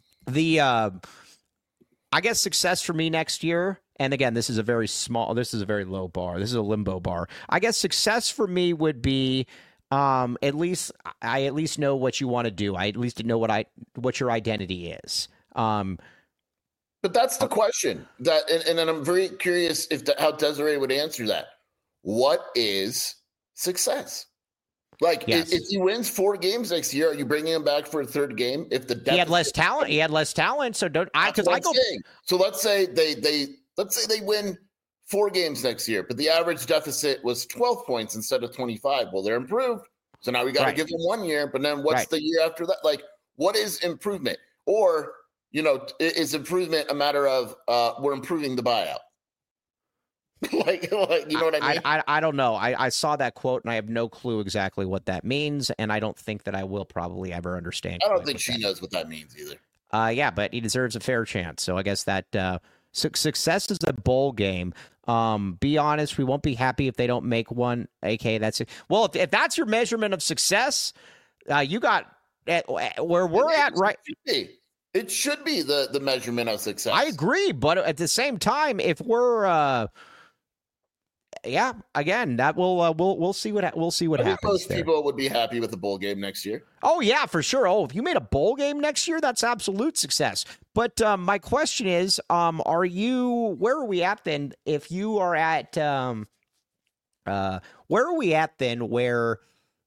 I guess success for me next year, and again, this is a very low bar. This is a limbo bar. I guess success for me would be I at least know what you want to do. I at least know what your identity is. But that's the question. And I'm very curious how Desiree would answer that. What is success? Like, yes. If he wins 4 games next year, are you bringing him back for a 3rd game? If the he had less talent. So don't I? Because I go. So let's say they win 4 games next year, but the average deficit was 12 points instead of 25. Well, they're improved. So now we got to give them 1 year, but then what's the year after that? Like, what is improvement? Or, is improvement a matter of we're improving the buyout? like, you know what I mean? I don't know. I saw that quote and I have no clue exactly what that means, and I don't think that I will probably ever understand. I don't think she knows what that means either. Yeah, but he deserves a fair chance. So I guess that success is a bowl game. Be honest, we won't be happy if they don't make one. AK, that's it. Well, if that's your measurement of success, you got where we're at, right? It should be the measurement of success. I agree, but at the same time, if we're yeah, again, that we'll see what I think happens most there. people would be happy with the bowl game next year. Oh yeah, for sure. Oh, if you made a bowl game next year, that's absolute success. But my question is, where are we at then? If you are at, where are we at then? Where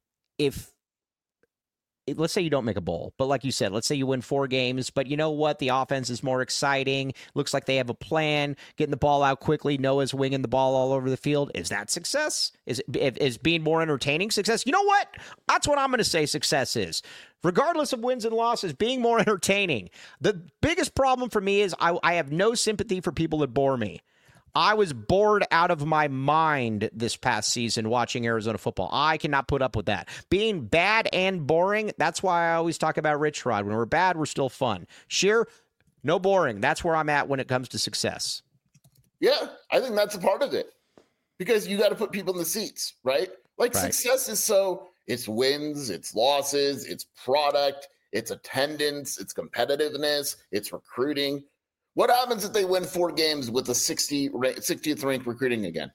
let's say you don't make a bowl, but like you said, let's say you win 4 games, but you know what? The offense is more exciting. Looks like they have a plan, getting the ball out quickly. Noah's winging the ball all over the field. Is that success? Is being more entertaining success? You know what? That's what I'm going to say success is. Regardless of wins and losses, being more entertaining. The biggest problem for me is I have no sympathy for people that bore me. I was bored out of my mind this past season watching Arizona football. I cannot put up with that. Being bad and boring, that's why I always talk about Rich Rod. When we're bad, we're still fun. Sheer, no boring. That's where I'm at when it comes to success. Yeah, I think that's a part of it. Because you got to put people in the seats, right? Like Right. success is it's wins, it's losses, it's product, it's attendance, it's competitiveness, it's recruiting. What happens if they win 4 games with the 60th ranked recruiting again?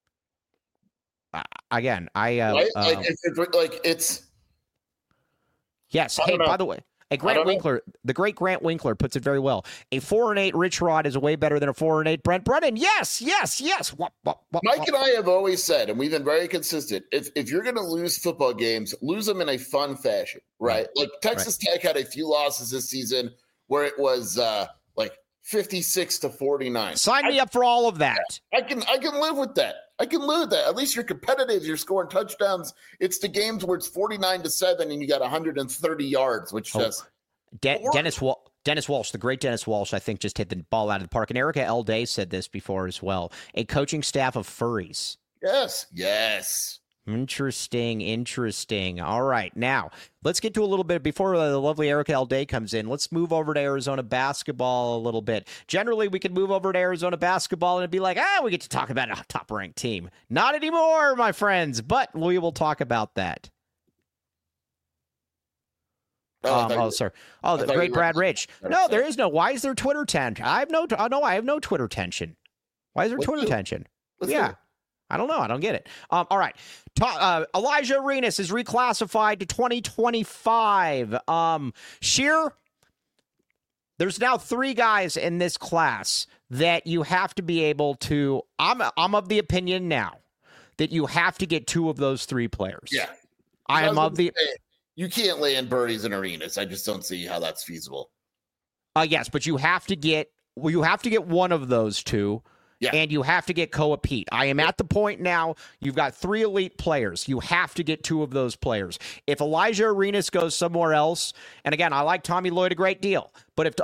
Again, Right? It's yes. I Hey, don't know. by the way, Grant Winkler, the great Grant Winkler puts it very well. A 4-8 Rich Rod is way better than a 4-8 Brent Brennan. Yes. Mike and I have always said, and we've been very consistent, if you're going to lose football games, lose them in a fun fashion, right? Like Texas Tech had a few losses this season where it was like 56-49. Sign me up for all of that. I can live with that. I can live with that. At least you're competitive. You're scoring touchdowns. It's the games where it's 49-7 and you got 130 yards, which just Dennis Walsh, the great Dennis Walsh, I think just hit the ball out of the park. And Erica L. Day said this before as well. A coaching staff of furries. Yes. Interesting. All right. Now, let's get to a little bit before the lovely Erica L. Day comes in. Let's move over to Arizona basketball a little bit. Generally, we could move over to Arizona basketball and it'd be like, we get to talk about a top-ranked team. Not anymore, my friends, but we will talk about that. Sorry. The great Brad Rich. No, there is no. Why is there Twitter tension? I have no Twitter tension. Why is there Twitter tension? Yeah. I don't know. I don't get it. All right. Elijah Arenas is reclassified to 2025. Sheer, there's now 3 guys in this class that you have to be able to. I'm of the opinion now that you have to get 2 of those 3 players. Yeah. I am of the. You can't lay in Birdies and Arenas. I just don't see how that's feasible. Yes, but you have to get one of those 2. Yeah. And you have to get Koa Pete. I am at the point now, you've got 3 elite players. You have to get 2 of those players. If Elijah Arenas goes somewhere else, and again, I like Tommy Lloyd a great deal, but if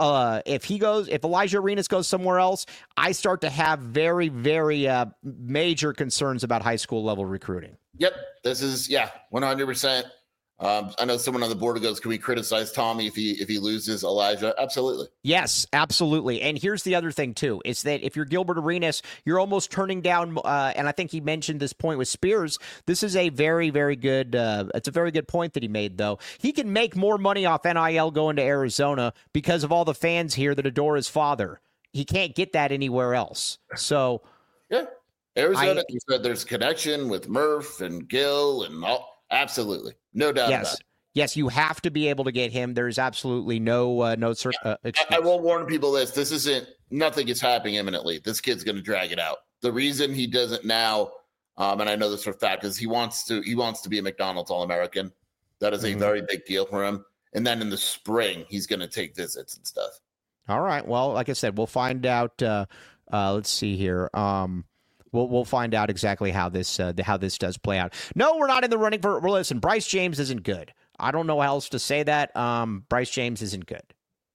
Elijah Arenas goes somewhere else, I start to have very, very major concerns about high school level recruiting. Yep. This is, 100%. I know someone on the board goes, can we criticize Tommy if he loses Elijah? Absolutely. Yes, absolutely. And here's the other thing, too, is that if you're Gilbert Arenas, you're almost turning down, and I think he mentioned this point with Spears. This is a very, very good, it's a very good point that he made, though. He can make more money off NIL going to Arizona because of all the fans here that adore his father. He can't get that anywhere else. So, yeah. Arizona, you said there's connection with Murph and Gil and all. Absolutely. No doubt about it. Yes, you have to be able to get him. There's absolutely no excuse. I will warn people nothing is happening imminently. This kid's going to drag it out. The reason he doesn't now, and I know this for a fact, is he wants to be a McDonald's All-American. That is a very big deal for him. And then in the spring, he's going to take visits and stuff. All right. Well, like I said, we'll find out. Let's see here. We'll find out exactly how this does play out. No, we're not in the running for. Well, listen, Bryce James isn't good. I don't know how else to say that. Bryce James isn't good.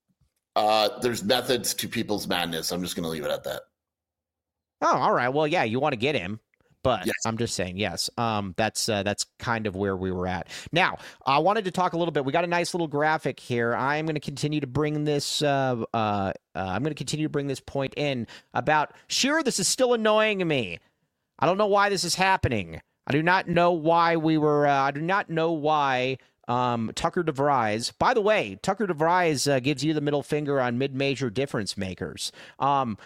There's methods to people's madness. I'm just going to leave it at that. Oh, all right. Well, yeah, you want to get him, but yes. I'm just saying, yes. That's kind of where we were at. Now, I wanted to talk a little bit. We got a nice little graphic here. I'm going to continue to bring this. I'm going to continue to bring this point in about. Sure, this is still annoying me. I don't know why this is happening. I do not know why we were. I do not know why. Tucker DeVries. By the way, Tucker DeVries gives you the middle finger on mid-major difference makers.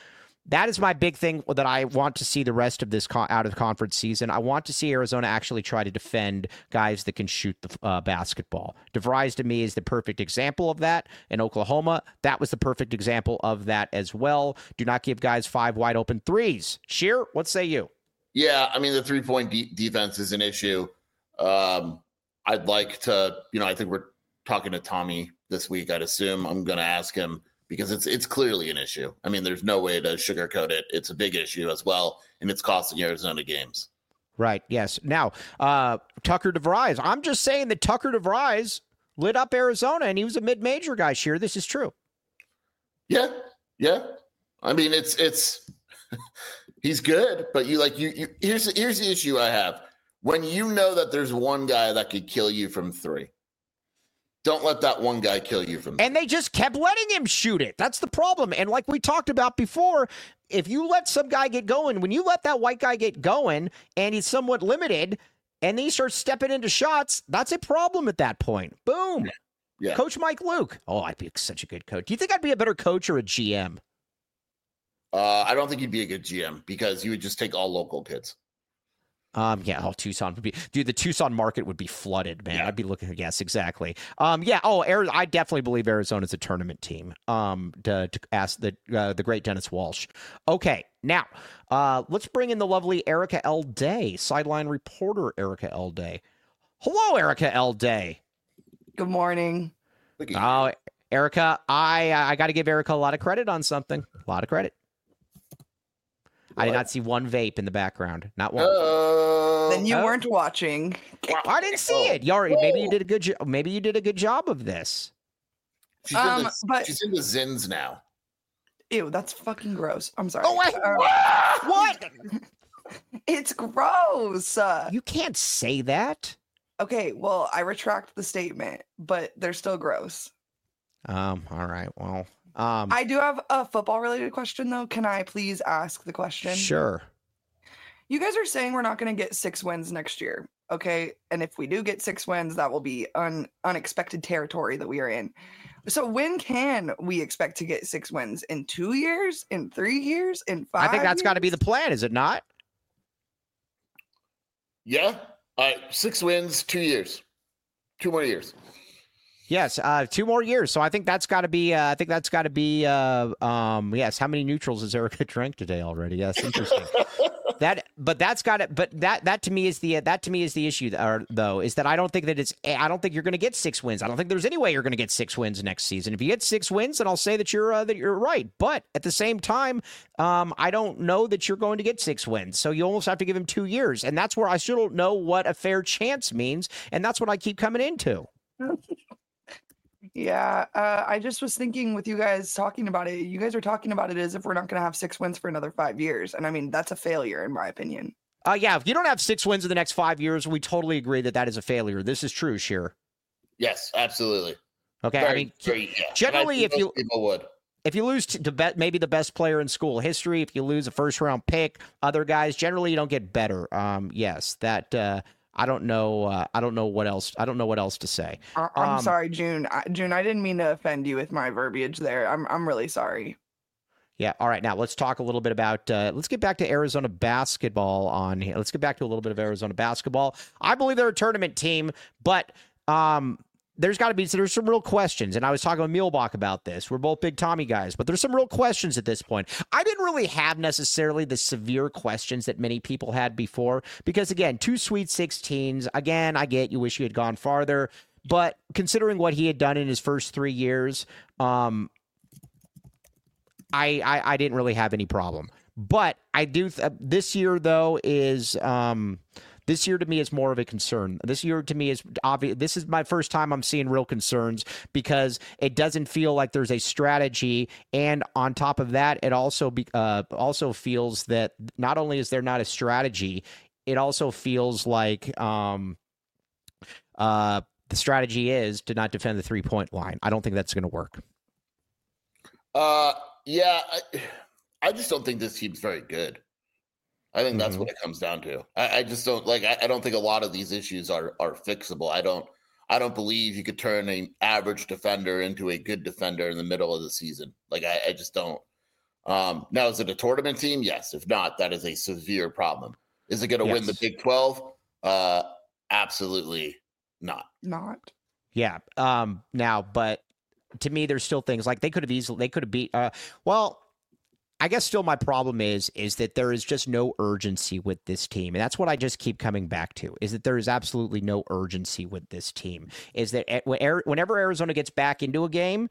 That is my big thing that I want to see the rest of this out of conference season. I want to see Arizona actually try to defend guys that can shoot the basketball. DeVries, to me, is the perfect example of that. In Oklahoma, that was the perfect example of that as well. Do not give guys 5 wide open threes. Sheer, what say you? Yeah, I mean, the 3-point defense is an issue. I'd like to, I think we're talking to Tommy this week. I'd assume I'm going to ask him, because it's clearly an issue. I mean, there's no way to sugarcoat it. It's a big issue as well, and it's costing Arizona games. Right, yes. Now, Tucker DeVries. I'm just saying that Tucker DeVries lit up Arizona, and he was a mid-major guy, Sheer. This is true. Yeah. I mean, it's he's good, but here's the issue I have. When you know that there's one guy that could kill you from 3, don't let that one guy kill you from 3. And they just kept letting him shoot it. That's the problem. And like we talked about before, if you let some guy get going, when you let that white guy get going and he's somewhat limited and then he starts stepping into shots, that's a problem at that point. Boom. Yeah. Coach Mike Luke. Oh, I'd be such a good coach. Do you think I'd be a better coach or a GM? I don't think you'd be a good GM, because you would just take all local kids. Tucson would be, dude, the Tucson market would be flooded, man. Yeah. I'd be looking, yes, exactly. I definitely believe Arizona's a tournament team. To ask the great Dennis Walsh. Okay, now, let's bring in the lovely Erica L. Day, sideline reporter Erica L. Day. Hello, Erica L. Day. Good morning. Oh, Erica, I got to give Erica a lot of credit on something. A lot of credit. I did not see one vape in the background. Not one. Then you weren't watching. I didn't see it. Maybe you did a good job. Maybe you did a good job of this. She's in the Zins now. Ew, that's fucking gross. I'm sorry. Oh, wait, what? It's gross. You can't say that. Okay, well, I retract the statement, but they're still gross. All right. Well, I do have a football related question though. Can I please ask the question? Sure. You guys are saying we're not going to get 6 wins next year. Okay. And if we do get 6 wins, that will be unexpected territory that we are in. So when can we expect to get 6 wins? In 2 years? In 3 years? In 5 I think that's years? got to be the plan, is it not? Yeah. 6 wins, 2 years. 2 more years. Yes, 2 more years. So I think that's got to be. Yes. How many neutrals has Erica drank today already? Yes, interesting. That to me is the issue. Though, is that I don't think you're going to get 6 wins. I don't think there's any way you're going to get 6 wins next season. If you get 6 wins, then I'll say that you're right. But at the same time, I don't know that you're going to get 6 wins. So you almost have to give him 2 years, and that's where I still don't know what a fair chance means, and that's what I keep coming into. Yeah, I just was thinking with you guys talking about it. You guys are talking about it as if we're not going to have 6 wins for another 5 years. And I mean, that's a failure in my opinion. Yeah, if you don't have 6 wins in the next 5 years, we totally agree that is a failure. This is true, Sheer. Yes, absolutely. Okay, generally, if people would. If you lose to maybe the best player in school history, if you lose a first-round pick, other guys, generally you don't get better. Yes, that... I don't know. I don't know what else. I don't know what else to say. I'm sorry, June. June, I didn't mean to offend you with my verbiage there. I'm really sorry. Yeah. All right. Now let's talk a little bit about. Let's get back to Arizona basketball on here. Let's get back to a little bit of Arizona basketball. I believe they're a tournament team, but there's some real questions. And I was talking with Muehlbach about this. We're both big Tommy guys, but there's some real questions at this point. I didn't really have necessarily the severe questions that many people had before, because again, 2 Sweet 16s. Again, I get you wish you had gone farther, but considering what he had done in his first 3 years, I didn't really have any problem. But I do. This year though is. This year to me is more of a concern. This year to me is obvious. This is my first time I'm seeing real concerns, because it doesn't feel like there's a strategy. And on top of that, it also feels that not only is there not a strategy, it also feels like the strategy is to not defend the 3-point line. I don't think that's going to work. Yeah, I just don't think this team's very good. I think that's what it comes down to. I just don't I don't think a lot of these issues are fixable. I don't believe you could turn an average defender into a good defender in the middle of the season. I just don't. Now, is it a tournament team? Yes. If not, that is a severe problem. Is it going to win the Big 12? Absolutely not. Yeah. Now, but to me, there's still things like they could have beat. I guess still my problem is that there is just no urgency with this team. And that's what I just keep coming back to, is that there is absolutely no urgency with this team. Is that whenever Arizona gets back into a game,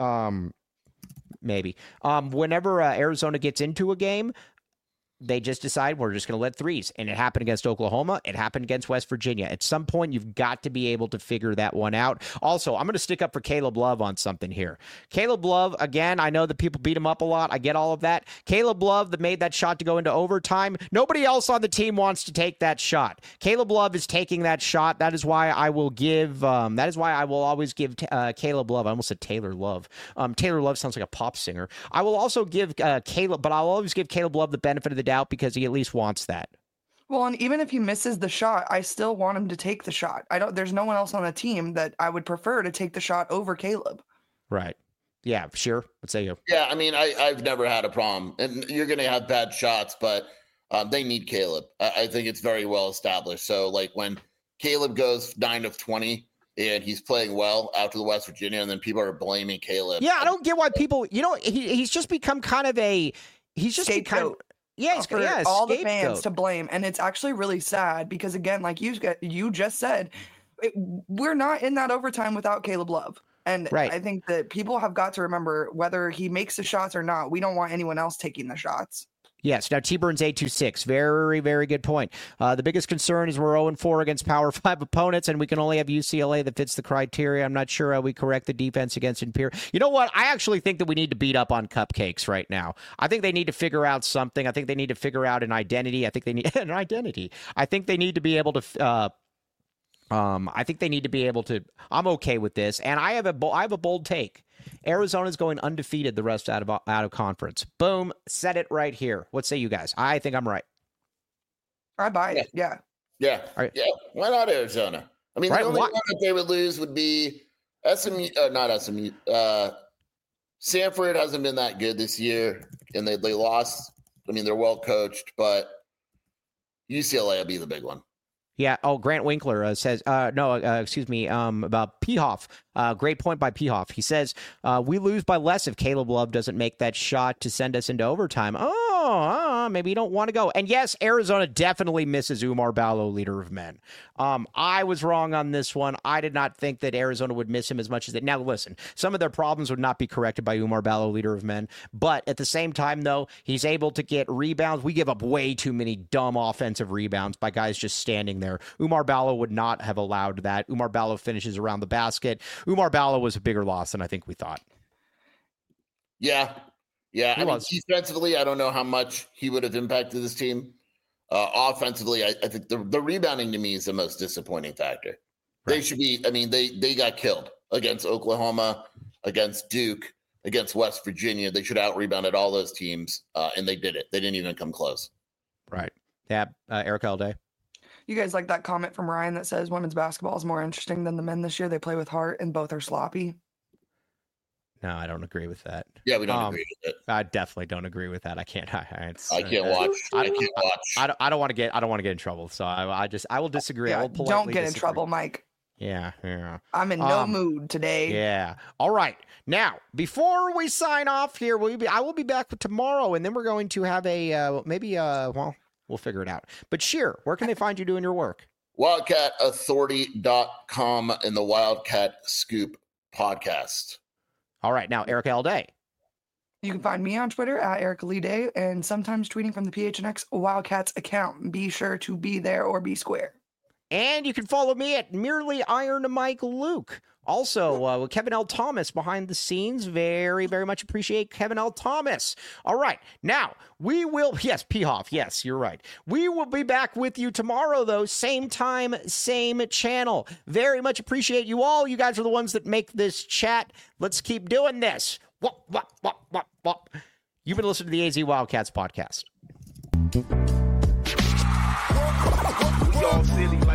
whenever Arizona gets into a game, they just decide we're just going to let threes. And it happened against Oklahoma. It happened against West Virginia. At some point, you've got to be able to figure that one out. Also, I'm going to stick up for Caleb Love on something here. Caleb Love, again, I know that people beat him up a lot. I get all of that. Caleb Love that made that shot to go into overtime. Nobody else on the team wants to take that shot. Caleb Love is taking that shot. That is why I will always give Caleb Love. I almost said Taylor Love. Taylor Love sounds like a pop singer. I will also give I'll always give Caleb Love the benefit of the doubt because he at least wants that. Well, and even if he misses the shot, I still want him to take the shot. There's no one else on the team that I would prefer to take the shot over Caleb. Right. Yeah, sure. Let's say you. Yeah, I mean, I've never had a problem. And you're going to have bad shots, but they need Caleb. I think it's very well established. So, like, when Caleb goes 9 of 20 and he's playing well out to the West Virginia, and then people are blaming Caleb. Yeah, I don't get why people, he's just become kind of a, he's just become. Yeah, for all the fans to blame. And it's actually really sad because, again, like you just said, we're not in that overtime without Caleb Love. And I think that people have got to remember, whether he makes the shots or not, we don't want anyone else taking the shots. Yes. Now, T-Burns 826, very, very good point. The biggest concern is we're 0-4 against Power 5 opponents, and we can only have UCLA that fits the criteria. I'm not sure how we correct the defense against Imperial. You know what? I actually think that we need to beat up on Cupcakes right now. I think they need to figure out something. I think they need to figure out an identity. I think they need an identity. I think they need to be able to. I think they need to be able to. I'm okay with this, and I have a bold take. Arizona's going undefeated the rest out of conference. Boom, said it right here. What say you guys? I think I'm right. I buy it. Yeah. Right. Yeah. Why not Arizona? I mean, the only one that they would lose would be SMU. Not SMU. Sanford hasn't been that good this year, and they lost. I mean, they're well coached, but UCLA will be the big one. Yeah. Oh, Grant Winkler says, about Pehoff. Great point by Pehoff. He says, we lose by less if Caleb Love doesn't make that shot to send us into overtime. Maybe you don't want to go. And yes, Arizona definitely misses Oumar Ballo, leader of men. I was wrong on this one. I did not think that Arizona would miss him as much as they. Now, listen, some of their problems would not be corrected by Oumar Ballo, leader of men. But at the same time, though, he's able to get rebounds. We give up way too many dumb offensive rebounds by guys just standing there. Oumar Ballo would not have allowed that. Oumar Ballo finishes around the basket. Oumar Ballo was a bigger loss than I think we thought. Yeah. I mean, defensively, I don't know how much he would have impacted this team. Offensively, I think the rebounding to me is the most disappointing factor. Right. They should be. I mean, they got killed against Oklahoma, against Duke, against West Virginia. They should have out-rebounded all those teams, and they did it. They didn't even come close. Right. Yeah. Eric Alday. You guys like that comment from Ryan that says women's basketball is more interesting than the men this year? They play with heart and both are sloppy. No, I don't agree with that. Yeah, we don't agree with it. I definitely don't agree with that. I can't. I can't watch. I don't want to get in trouble. So I will disagree. Yeah, I will politely don't get disagree. in trouble, Mike. Yeah. I'm in no mood today. Yeah. All right. Now, before we sign off here, I will be back tomorrow, and then we're going to have we'll figure it out. But Sheer, where can they find you doing your work? WildcatAuthority.com and the Wildcat Scoop podcast. All right. Now, Eric Alday. You can find me on Twitter at Eric Lee Day and sometimes tweeting from the PHNX Wildcats account. Be sure to be there or be square. And you can follow me at Merely Iron Mike Luke. Also, with Kevin L. Thomas behind the scenes. Very, very much appreciate Kevin L. Thomas. All right. Now, yes, Pehoff. Yes, you're right. We will be back with you tomorrow, though. Same time, same channel. Very much appreciate you all. You guys are the ones that make this chat. Let's keep doing this. You've been listening to the AZ Wildcats podcast. We all silly